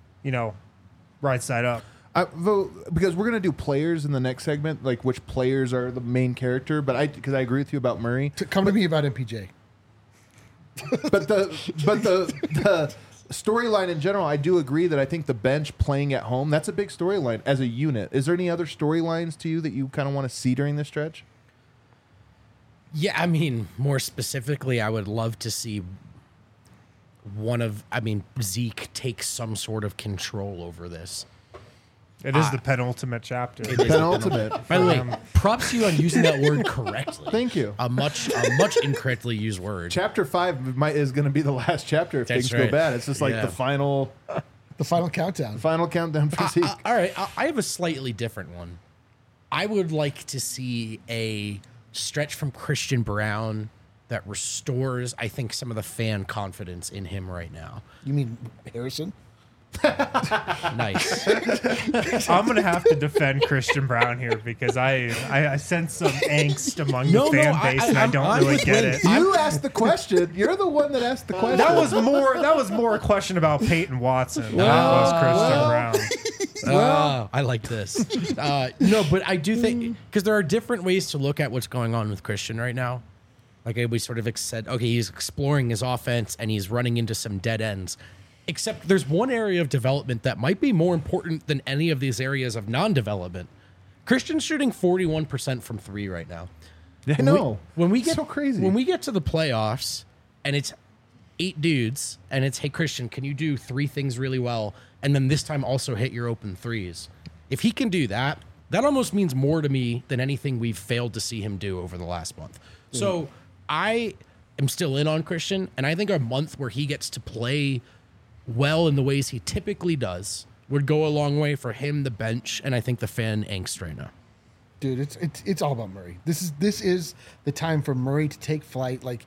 right side up?
Because we're going to do players in the next segment, like which players are the main character, because I agree with you about Murray.
Come to me about MPJ.
But the storyline in general, I do agree that I think the bench playing at home, that's a big storyline as a unit. Is there any other storylines to you that you kind of want to see during this stretch?
Yeah, I mean, more specifically, I would love to see Zeke take some sort of control over this.
It is the penultimate chapter.
It is
Penultimate.
By the way, props to you on using that word correctly.
Thank you.
A much incorrectly used word.
Chapter 5 is going to be the last chapter if
That's
things go
right.
bad. It's just like
Yeah.
the final
countdown.
countdown for Zeke.
All right, I have a slightly different one. I would like to see a stretch from Christian Brown that restores, I think, some of the fan confidence in him right now.
You mean Harrison?
Nice.
I'm gonna have to defend Christian Brown here because I sense some angst among
No,
the fan
no,
base, and I
I'm
don't really
with
get
Wayne.
it.
You asked the question. You're the one that asked the question.
That was more a question about Peyton Watson than it was Christian Brown.
I like this. No, but I do think, because there are different ways to look at what's going on with Christian right now. Like we sort of said, okay, he's exploring his offense and he's running into some dead ends. Except there's one area of development that might be more important than any of these areas of non-development. Christian's shooting 41% from 3 right now.
I know.
When we get
so crazy.
When we get to the playoffs and it's 8 dudes and it's, hey Christian, can you do 3 things really well and then this time also hit your open threes? If he can do that, that almost means more to me than anything we've failed to see him do over the last month. So I am still in on Christian, and I think a month where he gets to play well in the ways he typically does would go a long way for him, the bench, and I think the fan angst right now.
Dude, it's all about Murray. This is the time for Murray to take flight. Like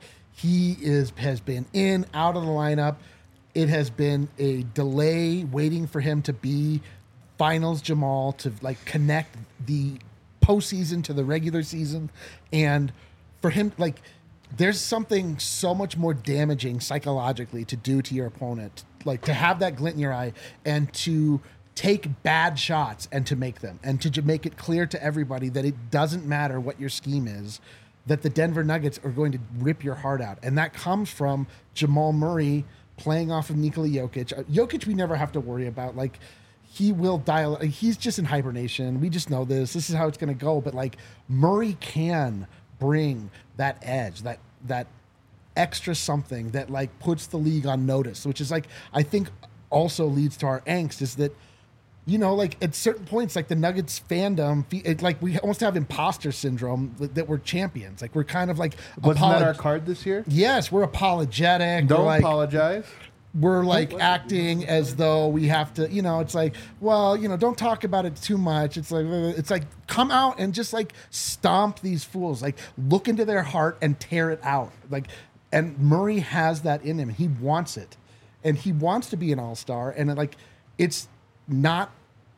has been in, out of the lineup. It has been a delay waiting for him to be finals Jamal, to like connect the postseason to the regular season. And for him, like, there's something so much more damaging psychologically to do to your opponent, like to have that glint in your eye and to take bad shots and to make them, and to make it clear to everybody that it doesn't matter what your scheme is, that the Denver Nuggets are going to rip your heart out. And that comes from Jamal Murray playing off of Nikola Jokic. Jokic, we never have to worry about. Like, he will dial. He's just in hibernation. We just know this. This is how it's going to go. But like, Murray can bring that edge, that extra something that like puts the league on notice, which is like, I think also leads to our angst, is that, you know, like at certain points, like the Nuggets fandom, like we almost have imposter syndrome that we're champions. Like we're kind of like,
wasn't that our card this year?
Yes, we're apologetic.
Don't
we're like,
apologize.
We're like acting as though we have to, you know, it's like, well, you know, don't talk about it too much. It's like come out and just like stomp these fools, like look into their heart and tear it out. Like, and Murray has that in him. He wants it, and he wants to be an all-star. And like, it's not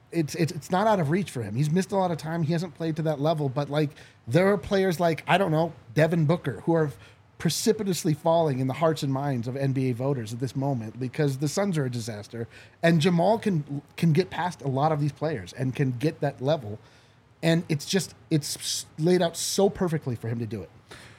out of reach for him. He's missed a lot of time. He hasn't played to that level, but like there are players like, I don't know, Devin Booker, who are precipitously falling in the hearts and minds of NBA voters at this moment because the Suns are a disaster, and Jamal can get past a lot of these players and can get that level, and it's laid out so perfectly for him to do it.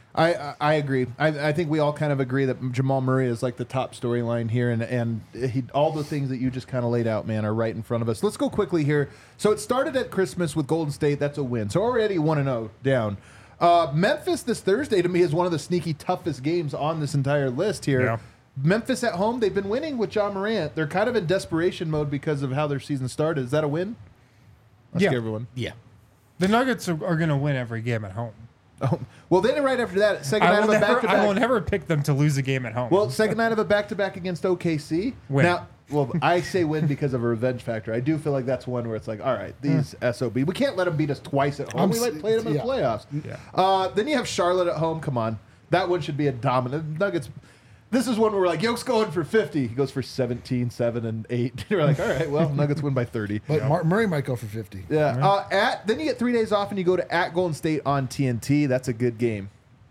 I agree. I think we all kind of agree that Jamal Murray is like the top storyline here, and all the things that you just kind of laid out, man, are right in front of us. Let's go quickly here. So it started at Christmas with Golden State. That's a win. So already 1-0 down. Memphis this Thursday to me is one of the sneaky toughest games on this entire list here.
Yeah.
Memphis at home, they've been winning with Ja Morant. They're kind of in desperation mode because of how their season started. Is that a win? Ask everyone.
Yeah.
The Nuggets are going to win every game at home.
Oh, well, then right after that, second night of a back-to-back.
I will never pick them to lose a game at home.
Well, second night of a back-to-back against OKC.
Win.
Now, well, I say win because of a revenge factor. I do feel like that's one where it's like, all right, these SOB. We can't let them beat us twice at home. We like played them in the playoffs.
Yeah.
Then you have Charlotte at home. Come on. That one should be a dominant. Nuggets. This is one where we're like, Yoke's going for 50. He goes for 17, 7, and 8. You're like, all right, well, Nuggets win by 30.
But Murray might go for 50.
Yeah. Then you get 3 days off and you go to at Golden State on TNT. That's a good game.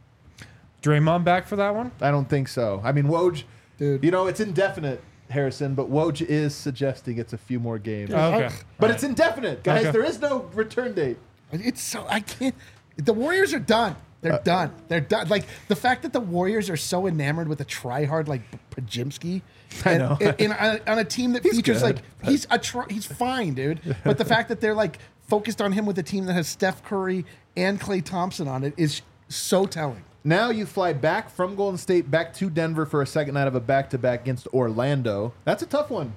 Draymond back for that one?
I don't think so. I mean, Woj,
Dude.
you know, it's indefinite, Harrison, but Woj is suggesting it's a few more games.
Okay.
But it's indefinite, guys.
Okay.
There is no return date.
It's so, I can't. The Warriors are done. They're done. They're done. Like the fact that the Warriors are so enamored with a tryhard like Pajimski,
I know.
on a team that
He's
features
good,
like he's fine, dude. But the fact that they're like focused on him with a team that has Steph Curry and Klay Thompson on it is so telling.
Now you fly back from Golden State back to Denver for a second night of a back-to-back against Orlando. That's a tough one.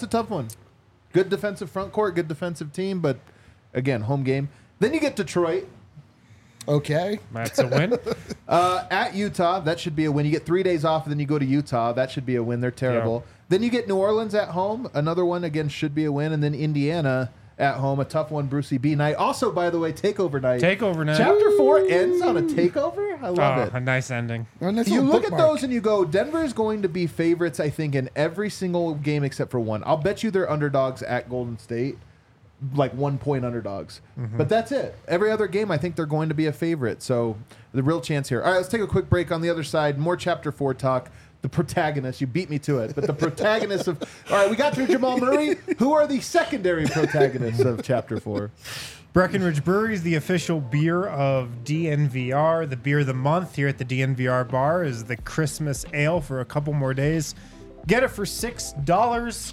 Good defensive front court, good defensive team, but again, home game. Then you get Detroit.
Okay.
That's a win.
At Utah, that should be a win. You get 3 days off, and then you go to Utah. That should be a win. They're terrible.
Yeah.
Then you get New Orleans at home. Another one, again, should be a win. And then Indiana at home, a tough one, Brucey B night. Also, by the way, takeover night.
Takeover night.
Chapter 4 ends on a takeover. I love it.
A nice ending.
You look at those and you go, Denver is going to be favorites, I think, in every single game except for one. I'll bet you they're underdogs at Golden State, like 1 point underdogs. But that's it. Every other game, I think they're going to be a favorite. So the real chance here. All right, let's take a quick break. On the other side, more Chapter 4 talk. The protagonist, you beat me to it, but the protagonist of... All right, we got through Jamal Murray. Who are the secondary protagonists of Chapter 4?
Breckenridge Brewery is the official beer of DNVR. The beer of the month here at the DNVR bar is the Christmas Ale for a couple more days. Get it for $6.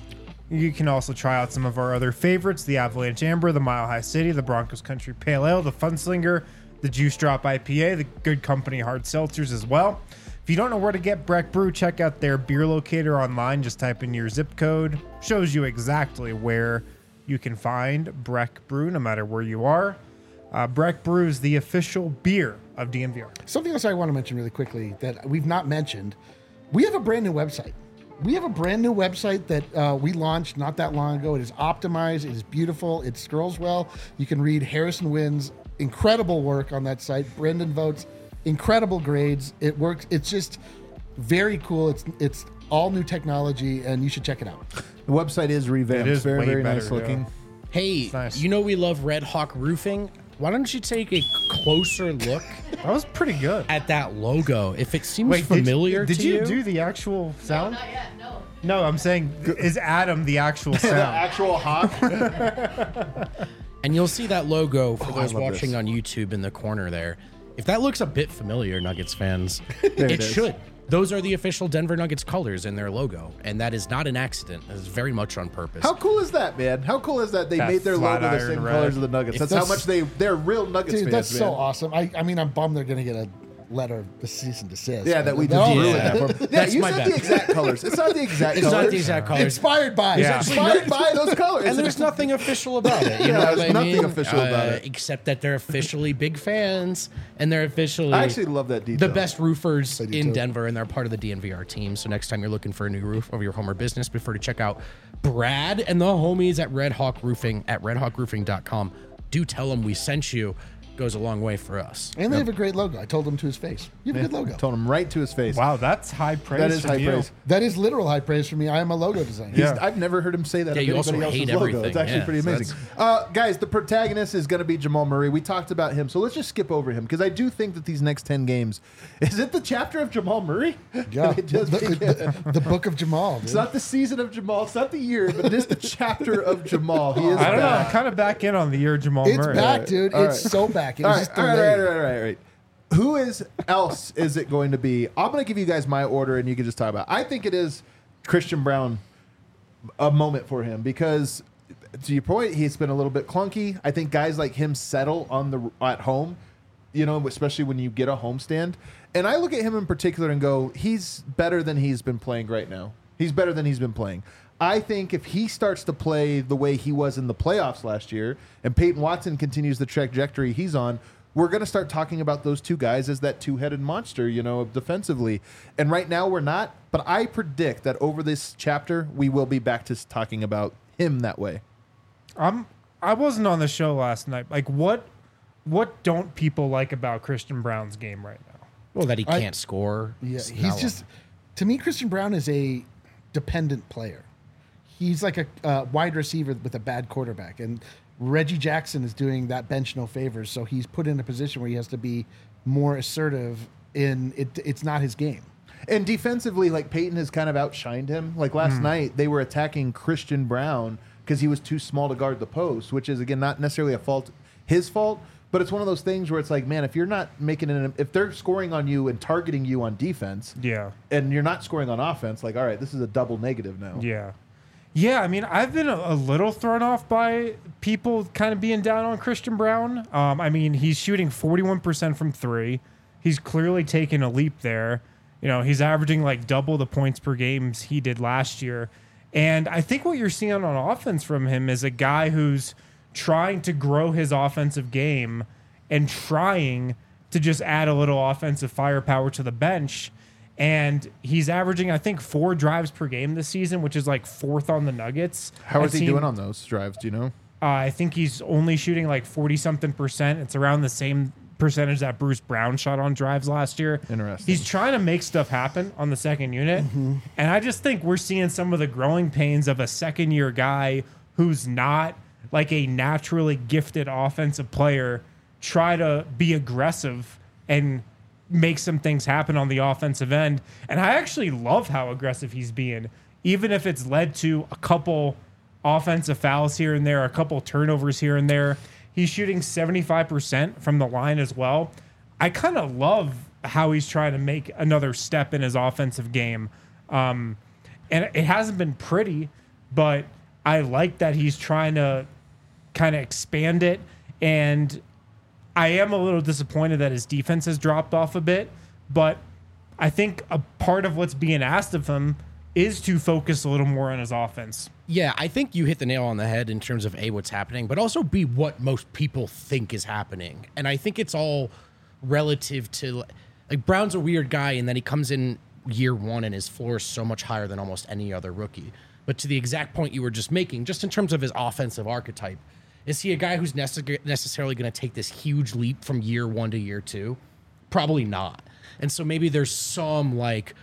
You can also try out some of our other favorites, the Avalanche Amber, the Mile High City, the Broncos Country Pale Ale, the Funslinger, the Juice Drop IPA, the Good Company Hard Seltzers as well. If you don't know where to get Breck Brew, check out their beer locator online. Just type in your zip code. Shows you exactly where you can find Breck Brew, no matter where you are. Breck Brew is the official beer of DNVR.
Something else I want to mention really quickly that we've not mentioned. We have a brand new website. We have a brand new website that we launched not that long ago. It is optimized. It is beautiful. It scrolls well. You can read Harrison Wynn's incredible work on that site. Brendan Votes, incredible grades. It works. It's just very cool. It's all new technology, and you should check it out.
The website is revamped.
It is
very,
way
very
better,
nice looking.
yeah.
Hey,
nice.
you know we love Red Hawk Roofing. Why don't you take a closer look
That was pretty good.
at that logo? If it seems
Wait,
familiar
did
to
you
you,
do the actual sound?
Not yet, no.
No, I'm saying, is Adam the actual
The
sound?
actual hawk.
and you'll see that logo for
I
those
love
watching
this.
on YouTube in the corner there. If that looks a bit familiar, Nuggets fans,
it
it
is.
should. Those are the official Denver Nuggets colors in their logo, and that is not an accident. It is very much on purpose.
How cool is that, man? How cool is that they
That
made their logo the
Flatiron
same
red.
colors of the Nuggets? That's how much they're real Nuggets
Dude,
fans,
that's so
man.
awesome. I mean, I'm bummed they're going to get a letter of the cease and desist.
Yeah, that we
They're
just
all
ruined
really
that
good.
for them. Yeah,
That's
you
my
said
bad.
the exact colors. It's not the exact
It's
colors.
not the exact colors.
Inspired by.
Yeah.
Inspired by those colors.
And there's nothing official about it. You
Yeah,
know what
there's
I
nothing
mean?
official about it.
Except that they're officially big fans, and they're officially
I actually love that detail.
the best roofers
do
in
too.
Denver, and they're part of the DNVR team. So next time you're looking for a new roof of your home or business, be sure to check out Brad and the homies at Red Hawk Roofing at redhawkroofing.com. Do tell them we sent you. Goes a long way for us.
And they have a great logo. I told him to his face. You have a good logo.
Told him right to his face.
Wow, that's high praise.
That is
from
high
you.
praise.
That is literal high praise for me. I am a logo designer.
Yeah.
I've never heard him say that.
Yeah,
of
you also
anybody else's
hate
logo.
everything.
It's actually
Yeah,
pretty
so
amazing. Guys, the protagonist is going to be Jamal Murray. We talked about him, so let's just skip over him because I do think that these next 10 games, is it the chapter of Jamal Murray?
Yeah.
It just began.
the book of Jamal. Dude.
It's not the season of Jamal. It's not the year, but it is the chapter of Jamal. He is
I don't know.
back.
I'm kind of back in on the year Jamal
It's
Murray.
back, dude.
All
It's so back. It
All
was
right,
just
all right,
delayed.
all right. Who else is it going to be? I'm going to give you guys my order, and you can just talk about it. I think it is Christian Brown, a moment for him, because to your point, he's been a little bit clunky. I think guys like him settle at home, you know, especially when you get a homestand. And I look at him in particular and go, he's better than he's been playing right now. He's better than he's been playing. I think if he starts to play the way he was in the playoffs last year, and Peyton Watson continues the trajectory he's on, we're going to start talking about those two guys as that two-headed monster, you know, defensively. And right now we're not, but I predict that over this chapter, we will be back to talking about him that way.
I wasn't on the show last night. Like, what don't people like about Christian Brown's game right now?
Well, that he can't score.
Yeah,
It's
he's
not-
just, to me, Christian Brown is a dependent player. He's like a wide receiver with a bad quarterback. And Reggie Jackson is doing that bench no favors. So he's put in a position where he has to be more assertive in it. It's not his game.
And defensively, like Peyton has kind of outshined him. Like last night, they were attacking Christian Brown because he was too small to guard the post, which is, again, not necessarily his fault, but it's one of those things where it's like, man, if you're not making it, if they're scoring on you and targeting you on defense,
Yeah.
and you're not scoring on offense, like, all right, this is a double negative now.
Yeah. Yeah, I mean, I've been a little thrown off by people kind of being down on Christian Brown. I mean, he's shooting 41% from three. He's clearly taken a leap there. You know, he's averaging like double the points per games he did last year. And I think what you're seeing on offense from him is a guy who's trying to grow his offensive game and trying to just add a little offensive firepower to the bench. And he's averaging, I think, 4 drives per game this season, which is like 4th on the Nuggets.
How is
I've
he
seen-
doing on those drives? Do you know?
I think he's only shooting like 40-something%. It's around the same percentage that Bruce Brown shot on drives last year.
Interesting.
He's trying to make stuff happen on the second unit. And I just think we're seeing some of the growing pains of a second-year guy who's not like a naturally gifted offensive player try to be aggressive and make some things happen on the offensive end. And I actually love how aggressive he's being, even if it's led to a couple offensive fouls here and there, a couple turnovers here and there. He's shooting 75% from the line as well. I kind of love how he's trying to make another step in his offensive game. And it hasn't been pretty, but I like that he's trying to kind of expand it. And I am a little disappointed that his defense has dropped off a bit, but I think a part of what's being asked of him is to focus a little more on his offense.
Yeah, I think you hit the nail on the head in terms of A, what's happening, but also B, what most people think is happening. And I think it's all relative to, like, Brown's a weird guy, and then he comes in year one and his floor is so much higher than almost any other rookie. But to the exact point you were just making, just in terms of his offensive archetype, is he a guy who's necessarily going to take this huge leap from year one to year two? Probably not. And so maybe there's some, like,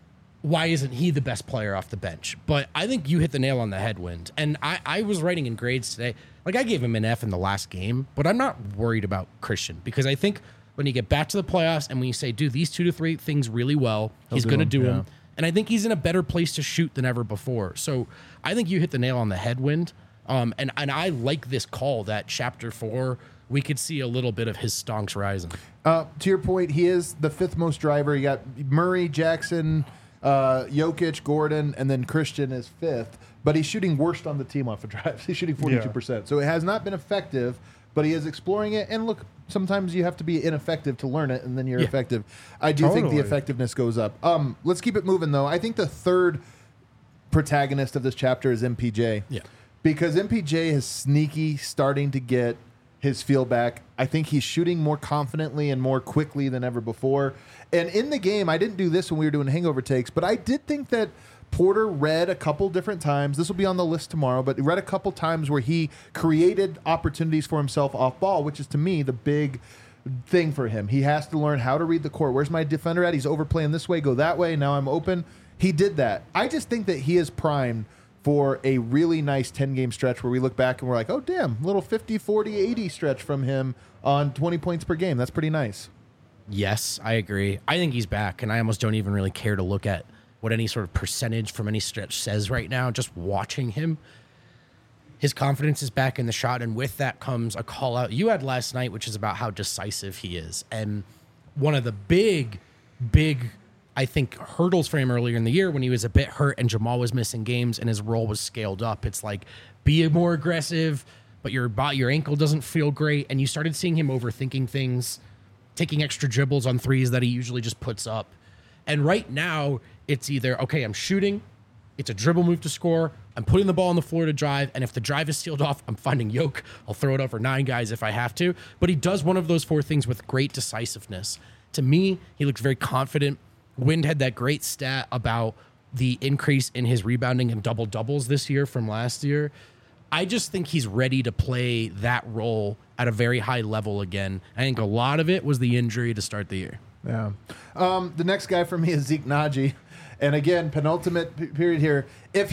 why isn't he the best player off the bench? But I think you hit the nail on the head, Wind. And I was writing in grades today. Like, I gave him an F in the last game, but I'm not worried about Christian, because I think when you get back to the playoffs and when you say, do these 2 to 3 things really well, he's going to do them. And I think he's in a better place to shoot than ever before. So I think you hit the nail on the head, Wind. And I like this call that chapter 4, we could see a little bit of his stonks rising.
To your point, he is the 5th most driver. You got Murray, Jackson, Jokic, Gordon, and then Christian is 5th. But he's shooting worst on the team off of drives. He's shooting 42%. Yeah. So it has not been effective, but he is exploring it. And look, sometimes you have to be ineffective to learn it, and then you're effective. I do think the effectiveness goes up. Let's keep it moving, though. I think the third protagonist of this chapter is MPJ.
Yeah.
Because MPJ is sneaky starting to get his feel back. I think he's shooting more confidently and more quickly than ever before. And in the game, I didn't do this when we were doing hangover takes, but I did think that Porter read a couple different times. This will be on the list tomorrow, but he read a couple times where he created opportunities for himself off ball, which is, to me, the big thing for him. He has to learn how to read the court. Where's my defender at? He's overplaying this way, go that way. Now I'm open. He did that. I just think that he is primed for a really nice 10-game stretch where we look back and we're like, oh, damn, little 50, 40, 80 stretch from him on 20 points per game. That's pretty nice.
Yes, I agree. I think he's back, and I almost don't even really care to look at what any sort of percentage from any stretch says right now. Just watching him, his confidence is back in the shot, and with that comes a call out you had last night, which is about how decisive he is. And one of the big, I think, hurdles for him earlier in the year when he was a bit hurt and Jamal was missing games and his role was scaled up. It's like, be more aggressive, but your ankle doesn't feel great. And you started seeing him overthinking things, taking extra dribbles on threes that he usually just puts up. And right now, it's either, okay, I'm shooting, it's a dribble move to score, I'm putting the ball on the floor to drive, and if the drive is sealed off, I'm finding Yoke. I'll throw it over 9 guys if I have to. But he does one of those 4 things with great decisiveness. To me, he looks very confident. Wind had that great stat about the increase in his rebounding and double-doubles this year from last year. I just think he's ready to play that role at a very high level again. I think a lot of it was the injury to start the year.
Yeah. The next guy for me is Zeke Naji. And again, penultimate period here. If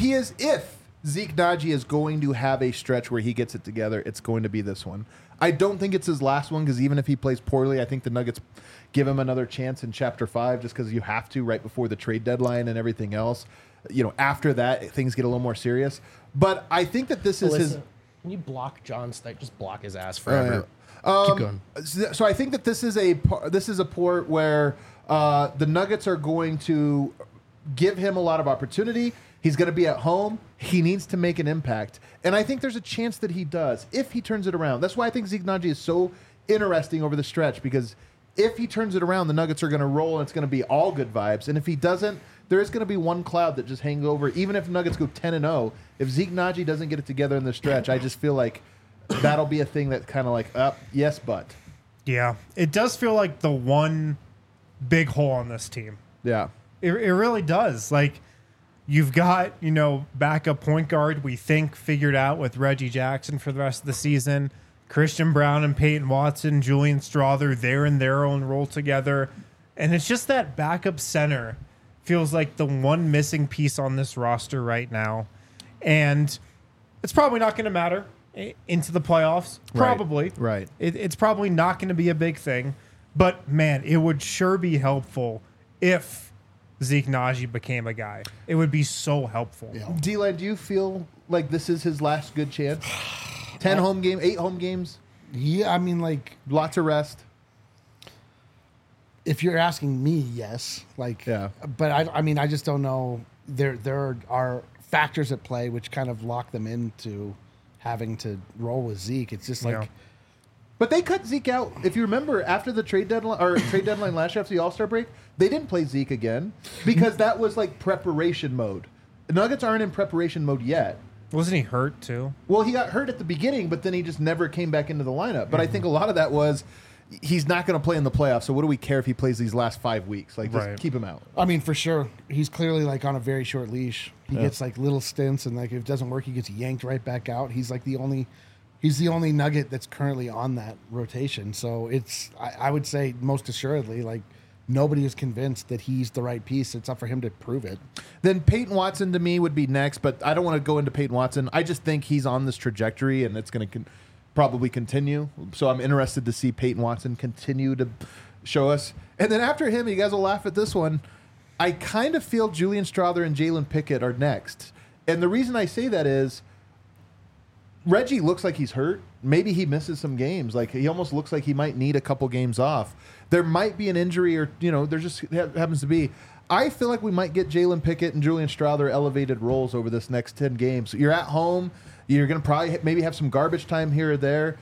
Zeke Naji is going to have a stretch where he gets it together, it's going to be this one. I don't think it's his last one, because even if he plays poorly, I think the Nuggets give him another chance in Chapter 5, just because you have to right before the trade deadline and everything else. You know, after that, things get a little more serious. But I think that this is his...
Can you block John Stipe? Just block his ass forever.
Keep going. So I think that this is a port where the Nuggets are going to give him a lot of opportunity. He's going to be at home. He needs to make an impact. And I think there's a chance that he does if he turns it around. That's why I think Zeke Naji is so interesting over the stretch, because if he turns it around, the Nuggets are going to roll and it's going to be all good vibes. And if he doesn't, there is going to be one cloud that just hangs over. Even if Nuggets go 10-0, if Zeke Naji doesn't get it together in the stretch, I just feel like that'll be a thing that's kind of like, yes, but.
Yeah, it does feel like the one big hole on this team.
Yeah.
It really does. Like, you've got, backup point guard, we think, figured out with Reggie Jackson for the rest of the season. Christian Brown and Peyton Watson, Julian Strawther, they're in their own role together. And it's just that backup center feels like the one missing piece on this roster right now. And it's probably not going to matter into the playoffs. Probably.
Right.
It's probably not going to be a big thing. But, man, it would sure be helpful if Zeke Naji became a guy. It would be so helpful.
Yeah.
D-Line, do you feel like this is his last good chance? 8 home games?
Yeah, I mean, like,
lots of rest.
If you're asking me, yes. Like,
yeah.
But I mean, I just don't know. There are factors at play which kind of lock them into having to roll with Zeke. It's just like.
Yeah.
But they cut Zeke out. If you remember, after the trade deadline last year after the All-Star break, they didn't play Zeke again because that was like preparation mode. The Nuggets aren't in preparation mode yet.
Wasn't he hurt too?
Well, he got hurt at the beginning, but then he just never came back into the lineup. But I think a lot of that was he's not going to play in the playoffs, so what do we care if he plays these last 5 weeks? Like, just
Right.
keep him out.
I mean, for sure, he's clearly like on a very short leash. He gets like little stints, and like if it doesn't work, he gets yanked right back out. He's like the only Nugget that's currently on that rotation. So it's I would say most assuredly like nobody is convinced that he's the right piece. It's up for him to prove it.
Then Peyton Watson to me would be next, but I don't want to go into Peyton Watson. I just think he's on this trajectory, and it's going to probably continue. So I'm interested to see Peyton Watson continue to show us. And then after him, you guys will laugh at this one, I kind of feel Julian Strawther and Jalen Pickett are next. And the reason I say that is Reggie looks like he's hurt. Maybe he misses some games. Like, he almost looks like he might need a couple games off. There might be an injury, or there just happens to be. I feel like we might get Jalen Pickett and Julian Strawther elevated roles over this next 10 games. You're at home. You're going to probably maybe have some garbage time here or there.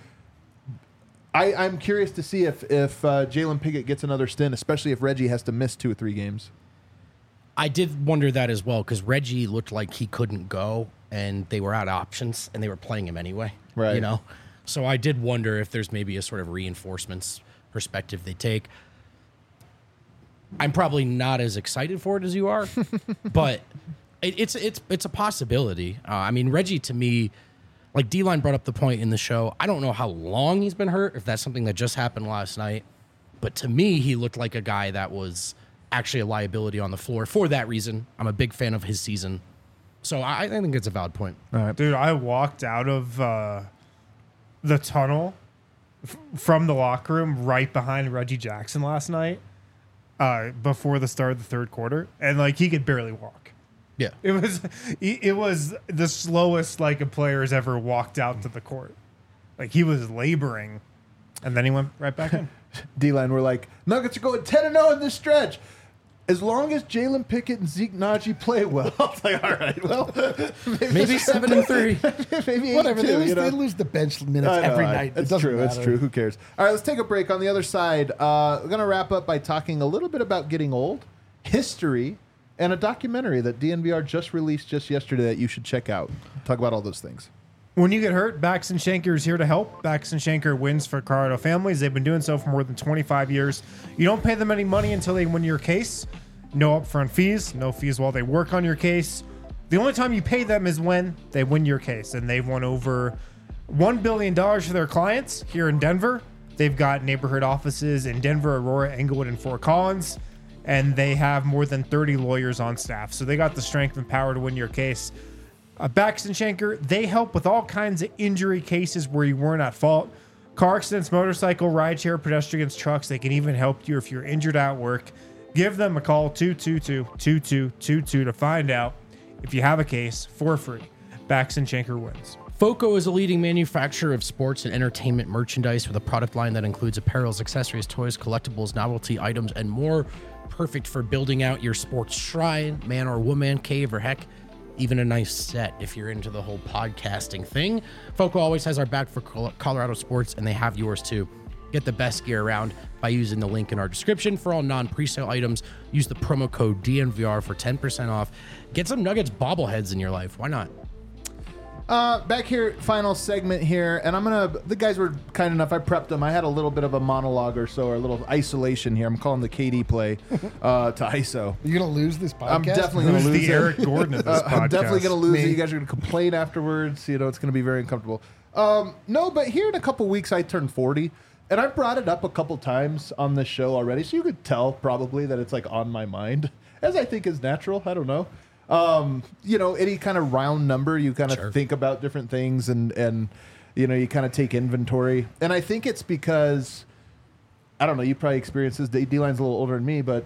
I'm curious to see if Jalen Pickett gets another stint, especially if Reggie has to miss 2 or 3 games.
I did wonder that as well because Reggie looked like he couldn't go, and they were out of options, and they were playing him anyway.
Right.
So I did wonder if there's maybe a sort of reinforcements perspective they take. I'm probably not as excited for it as you are, but it's a possibility. I mean, Reggie to me, like D-Line brought up the point in the show. I don't know how long he's been hurt, if that's something that just happened last night, but to me, he looked like a guy that was actually a liability on the floor. For that reason, I'm a big fan of his season. So I think it's a valid point.
Dude, I walked out of the tunnel from the locker room right behind Reggie Jackson last night before the start of the third quarter, and like he could barely walk.
Yeah.
It was the slowest like a player has ever walked out to the court. Like he was laboring, and then he went right back in.
D-Line, we're like, Nuggets are going 10-0 in this stretch. As long as Jalen Pickett and Zeke Naji play well. I was like, all right, well,
Maybe 7-3.
maybe
Whatever.
8-2,
They lose the bench minutes every night.
It's true. It's true. Who cares? All right, let's take a break. On the other side, we're going to wrap up by talking a little bit about getting old, history, and a documentary that DNVR just released just yesterday that you should check out. Talk about all those things.
When you get hurt, Baxton Shanker is here to help. Baxton Shanker wins for Colorado families. They've been doing so for more than 25 years. You don't pay them any money until they win your case. No upfront fees, no fees while they work on your case. The only time you pay them is when they win your case. And they've won over $1 billion for their clients here in Denver. They've got neighborhood offices in Denver, Aurora, Englewood, and Fort Collins. And they have more than 30 lawyers on staff. So they got the strength and power to win your case. Baxton Shanker, they help with all kinds of injury cases where you weren't at fault. Car accidents, motorcycle, rideshare, pedestrians, trucks. They can even help you if you're injured at work. Give them a call, 222-2222, to find out if you have a case for free. Baxton Shanker wins.
FOCO is a leading manufacturer of sports and entertainment merchandise with a product line that includes apparels, accessories, toys, collectibles, novelty items, and more. Perfect for building out your sports shrine, man or woman cave, or heck, even a nice set if you're into the whole podcasting thing. FOCO always has our back for Colorado sports, and they have yours too. Get the best gear around by using the link in our description. For all non-presale items, use the promo code DNVR for 10% off. Get some Nuggets bobbleheads in your life. Why not?
Back here, final segment here, and the guys were kind enough, I prepped them. I had a little bit of a monologue or so, or a little isolation here. I'm calling the KD play to ISO.
You're going to lose this podcast?
I'm definitely going to lose
the Eric Gordon of this podcast?
I'm definitely going to lose it. You guys are going to complain afterwards. It's going to be very uncomfortable. No, but here in a couple weeks, I turn 40, and I brought it up a couple times on this show already, so you could tell probably that it's like on my mind, as I think is natural. I don't know. Any kind of round number, you kind of think about different things and you kind of take inventory. And I think it's because, I don't know, you probably experienced this. D-Line's a little older than me, but,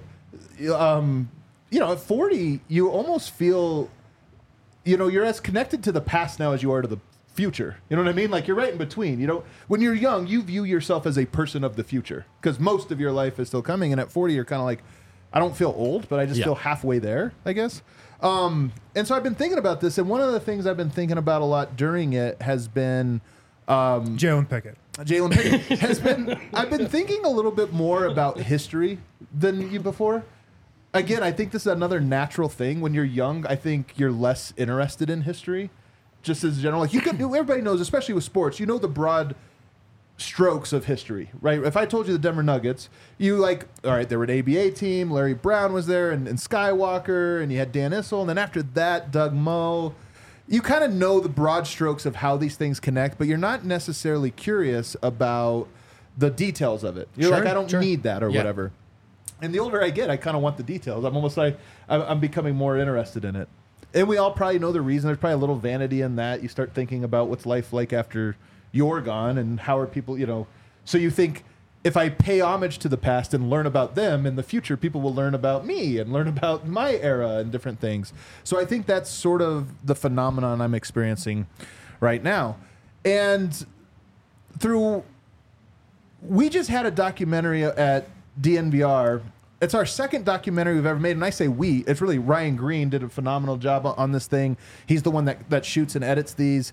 at 40, you almost feel, you're as connected to the past now as you are to the future. You know what I mean? Like, you're right in between. When you're young, you view yourself as a person of the future because most of your life is still coming. And at 40, you're kind of like, I don't feel old, but I just feel halfway there, I guess. And so I've been thinking about this, and one of the things I've been thinking about a lot during it has been
Jalen Pickett.
Jalen Pickett has been. I've been thinking a little bit more about history than you before. Again, I think this is another natural thing. When you're young, I think you're less interested in history, just as general. Like everybody knows, especially with sports, you know the broad strokes of history, right? If I told you the Denver Nuggets, you all right, they were an ABA team. Larry Brown was there, and Skywalker, and you had Dan Issel, and then after that, Doug Moe. You kind of know the broad strokes of how these things connect, but you're not necessarily curious about the details of it. You're like, I don't need that or whatever. And the older I get, I kind of want the details. I'm almost like I'm becoming more interested in it. And we all probably know the reason. There's probably a little vanity in that. You start thinking about what's life like after you're gone and how are people, So you think, if I pay homage to the past and learn about them, in the future, people will learn about me and learn about my era and different things. So I think that's sort of the phenomenon I'm experiencing right now. And we just had a documentary at DNVR. It's our second documentary we've ever made. And I say we, it's really Ryan Green did a phenomenal job on this thing. He's the one that shoots and edits these.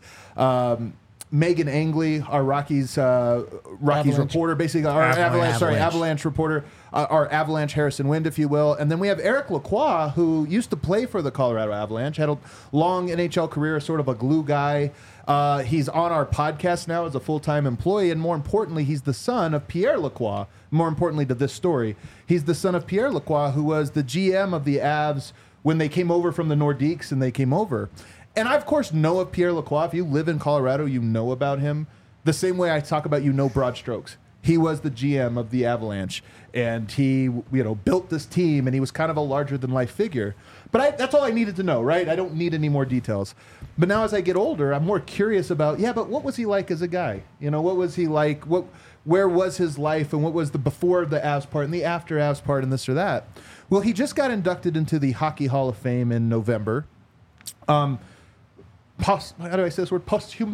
Megan Angley, our Rockies reporter, basically our Avalanche reporter, our Avalanche Harrison Wind, if you will. And then we have Eric Lacroix, who used to play for the Colorado Avalanche, had a long NHL career, sort of a glue guy. He's on our podcast now as a full-time employee, and more importantly, he's the son of Pierre Lacroix. More importantly to this story, he's the son of Pierre Lacroix, who was the GM of the Avs when they came over from the Nordiques, and they came over. And I, of course, know of Pierre Lacroix. If you live in Colorado, you know about him. The same way I talk about, broad strokes. He was the GM of the Avalanche, and he, built this team, and he was kind of a larger-than-life figure. But that's all I needed to know, right? I don't need any more details. But now as I get older, I'm more curious about, but what was he like as a guy? What was he like? Where was his life, and what was the before the Avs part and the after Avs part and this or that? Well, he just got inducted into the Hockey Hall of Fame in November. How do I say this word?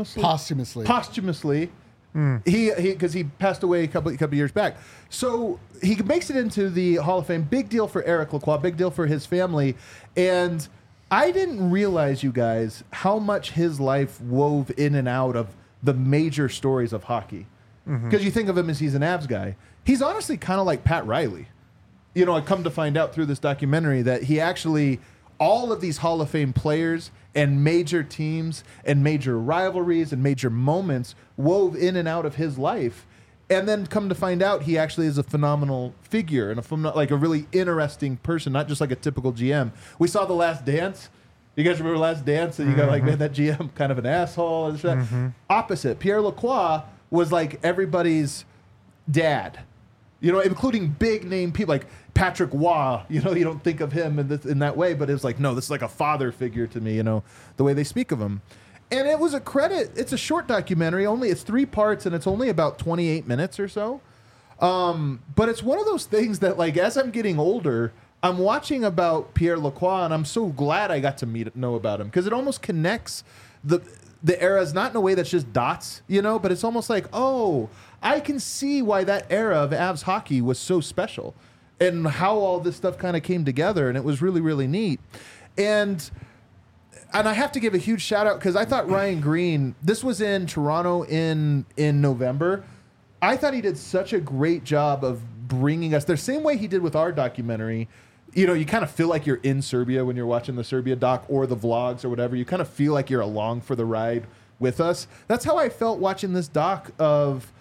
Posthumously. Because he passed away a couple years back. So he makes it into the Hall of Fame. Big deal for Eric Lacroix. Big deal for his family. And I didn't realize, you guys, how much his life wove in and out of the major stories of hockey. Because you think of him as he's an Avs guy. He's honestly kind of like Pat Riley. I come to find out through this documentary that he actually, all of these Hall of Fame players and major teams and major rivalries and major moments wove in and out of his life. And then come to find out he actually is a phenomenal figure and a really interesting person, not just like a typical GM. We saw The Last Dance. You guys remember Last Dance? And you got man, that GM kind of an asshole. And shit. Opposite. Pierre Lacroix was like everybody's dad, including big name people like Patrick Waugh. You don't think of him in that way, but it's like, no, this is like a father figure to me, the way they speak of him. And it was a credit. It's a short documentary. It's 3 parts, and it's only about 28 minutes or so. But it's one of those things that, like, as I'm getting older, I'm watching about Pierre Lacroix, and I'm so glad I got to know about him, because it almost connects the eras, not in a way that's just dots, but it's almost like, oh, I can see why that era of Avs hockey was so special and how all this stuff kind of came together. And it was really, really neat. And I have to give a huge shout out, because I thought Ryan Green, this was in Toronto in November. I thought he did such a great job of bringing us the same way he did with our documentary. You kind of feel like you're in Serbia when you're watching the Serbia doc or the vlogs or whatever. You kind of feel like you're along for the ride with us. That's how I felt watching this doc of,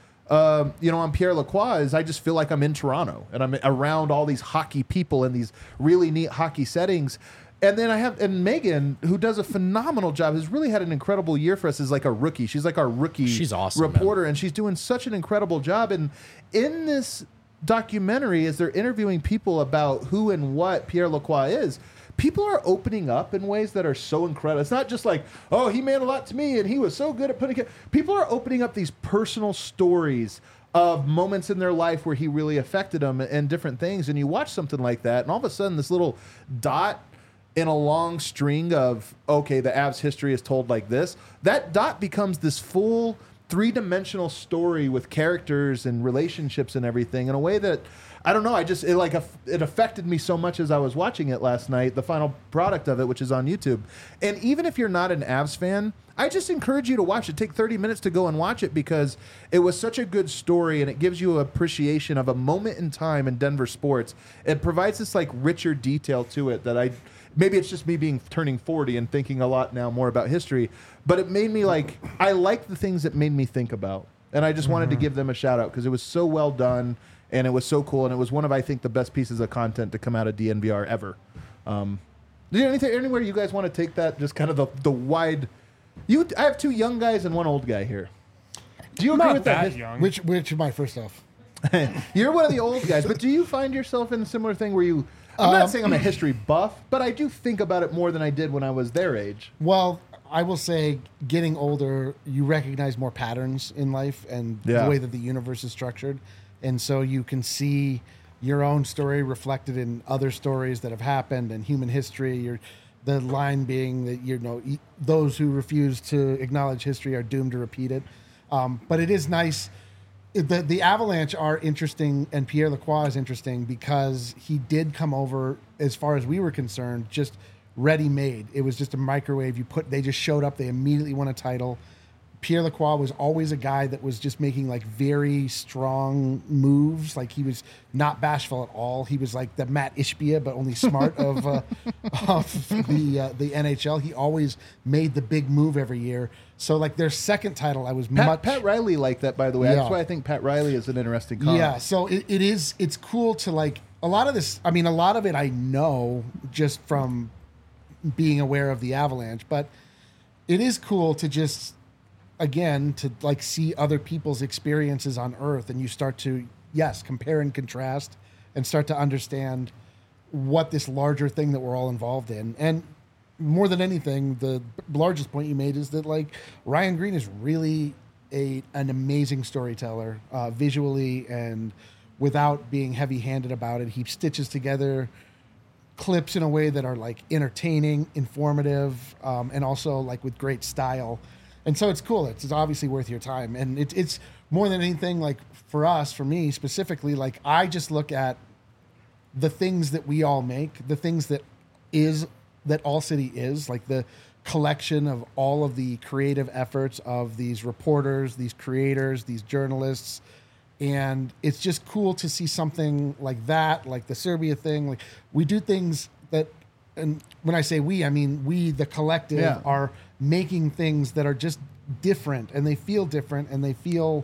on Pierre Lacroix. Is I just feel like I'm in Toronto and I'm around all these hockey people in these really neat hockey settings. And then and Megan, who does a phenomenal job, has really had an incredible year for us as like a rookie. She's like our rookie
she's awesome,
reporter,
man.
And she's doing such an incredible job. And in this documentary, as they're interviewing people about who and what Pierre Lacroix is, people are opening up in ways that are so incredible. It's not just like, oh, he meant a lot to me and he was so good at putting it. People are opening up these personal stories of moments in their life where he really affected them and different things. And you watch something like that, and all of a sudden this little dot in a long string of, okay, the Avs history is told like this, that dot becomes this full 3-dimensional story with characters and relationships and everything in a way that I don't know. It affected me so much as I was watching it last night, the final product of it, which is on YouTube. And even if you're not an Avs fan, I just encourage you to watch it. Take 30 minutes to go and watch it because it was such a good story and it gives you appreciation of a moment in time in Denver sports. It provides this like richer detail to it that maybe it's just me turning 40 and thinking a lot now more about history, but it made me I like the things that made me think about. And I just wanted to give them a shout out because it was so well done and it was so cool. And it was one of, I think, the best pieces of content to come out of DNVR ever. Anywhere you guys want to take that? Just kind of the wide. I have two young guys and one old guy here. Do you agree
Not
with
that
that?
young.
Which am I first off?
You're one of the old guys, but do you find yourself in a similar thing where you? I'm not saying I'm a history buff, but I do think about it more than I did when I was their age.
Well, I will say, getting older, you recognize more patterns in life and
Yeah.
the way that the universe is structured, and so you can see your own story reflected in other stories that have happened in human history. The line being that those who refuse to acknowledge history are doomed to repeat it. But it is nice. The Avalanche are interesting, and Pierre Lacroix is interesting because he did come over, as far as we were concerned, just ready-made. It was just a microwave. They just showed up. They immediately won a title. Pierre Lacroix was always a guy that was just making like very strong moves. Like he was not bashful at all. He was like the Matt Ishbia, but only smart of the NHL. He always made the big move every year. So like their second title, I was
Pat Riley liked that, by the way.
Yeah.
That's why I think Pat Riley is an interesting comment.
Yeah, so it's cool to like a lot of this. I mean, a lot of it I know just from being aware of the Avalanche, but it is cool to just, again, to like see other people's experiences on Earth, and you start to, yes, compare and contrast and start to understand what this larger thing that we're all involved in. And more than anything, the largest point you made is that like Ryan Green is really an amazing storyteller, visually and without being heavy-handed about it. He stitches together clips in a way that are like entertaining, informative, and also like with great style. And so it's cool. It's obviously worth your time. And it's more than anything, like for me specifically, like I just look at the things that we all make, the things that All City is, like the collection of all of the creative efforts of these reporters, these creators, these journalists. And it's just cool to see something like that, like the Serbia thing. Like we do things that, and when I say we, I mean we, the collective,
Yeah.
are making things that are just different, and they feel different, and they feel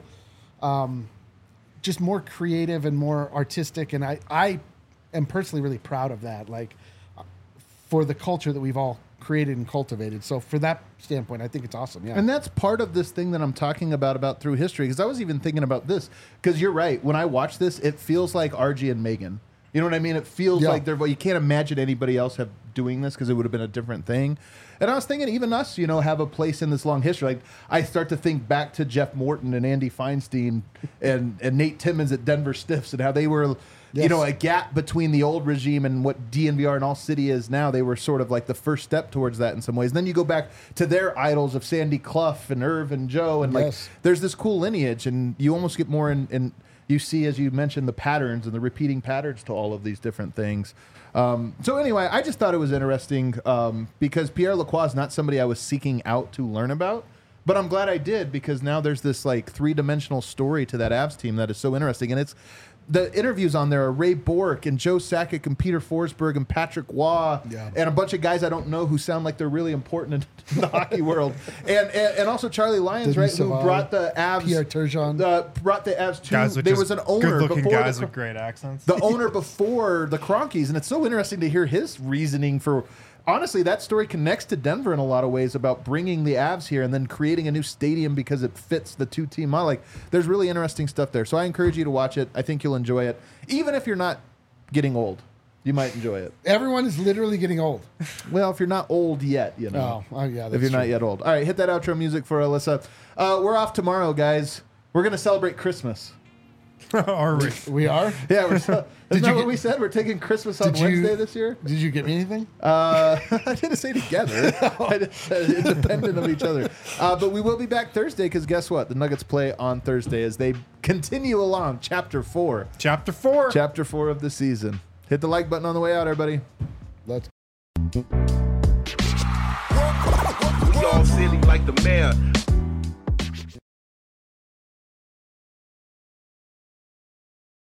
just more creative and more artistic. And I am personally really proud of that, like for the culture that we've all created and cultivated. So for that standpoint, I think it's awesome. Yeah.
And that's part of this thing that I'm talking about through history, because I was even thinking about this, because you're right. When I watch this, it feels like RG and Megan. You know what I mean? It feels like you can't imagine anybody else doing this because it would have been a different thing. And I was thinking even us, have a place in this long history. Like I start to think back to Jeff Morton and Andy Feinstein and Nate Timmons at Denver Stiffs and how they were, a gap between the old regime and what DNVR and All City is now. They were sort of like the first step towards that in some ways. And then you go back to their idols of Sandy Clough and Irv and Joe. And like there's this cool lineage, and you almost get more in you see, as you mentioned, the patterns and the repeating patterns to all of these different things. So anyway, I just thought it was interesting because Pierre Lacroix is not somebody I was seeking out to learn about, but I'm glad I did, because now there's this like three-dimensional story to that Avs team that is so interesting. And it's the interviews on there are Ray Bourque and Joe Sakic and Peter Forsberg and Patrick Waugh and a bunch of guys I don't know who sound like they're really important in the hockey world. And also Charlie Lyons, right, who brought the Avs.
Pierre Turgeon.
Brought the Avs to.
Guys with
there
just
was an owner
good-looking
before
guys with great accents.
the owner before the Kroenkes, and it's so interesting to hear his reasoning for. Honestly, that story connects to Denver in a lot of ways about bringing the Avs here and then creating a new stadium because it fits the two-team model. Like, there's really interesting stuff there. So I encourage you to watch it. I think you'll enjoy it. Even if you're not getting old, you might enjoy it.
Everyone is literally getting old.
Well, if you're not old yet,
Oh, yeah. That's
if you're not
true.
yet old. All right, hit that outro music for Alyssa. We're off tomorrow, guys. We're going to celebrate Christmas.
Are we?
We are?
Yeah, we're so, isn't that
you
what
get-
we said? We're taking Christmas on
Did you-
Wednesday this year?
Did you get me anything?
I didn't say together. I just said independent of each other. But we will be back Thursday because guess what? The Nuggets play on Thursday as they continue along Chapter 4.
Chapter 4.
Chapter 4 of the season. Hit the like button on the way out, everybody.
Let's
We all silly like the mayor.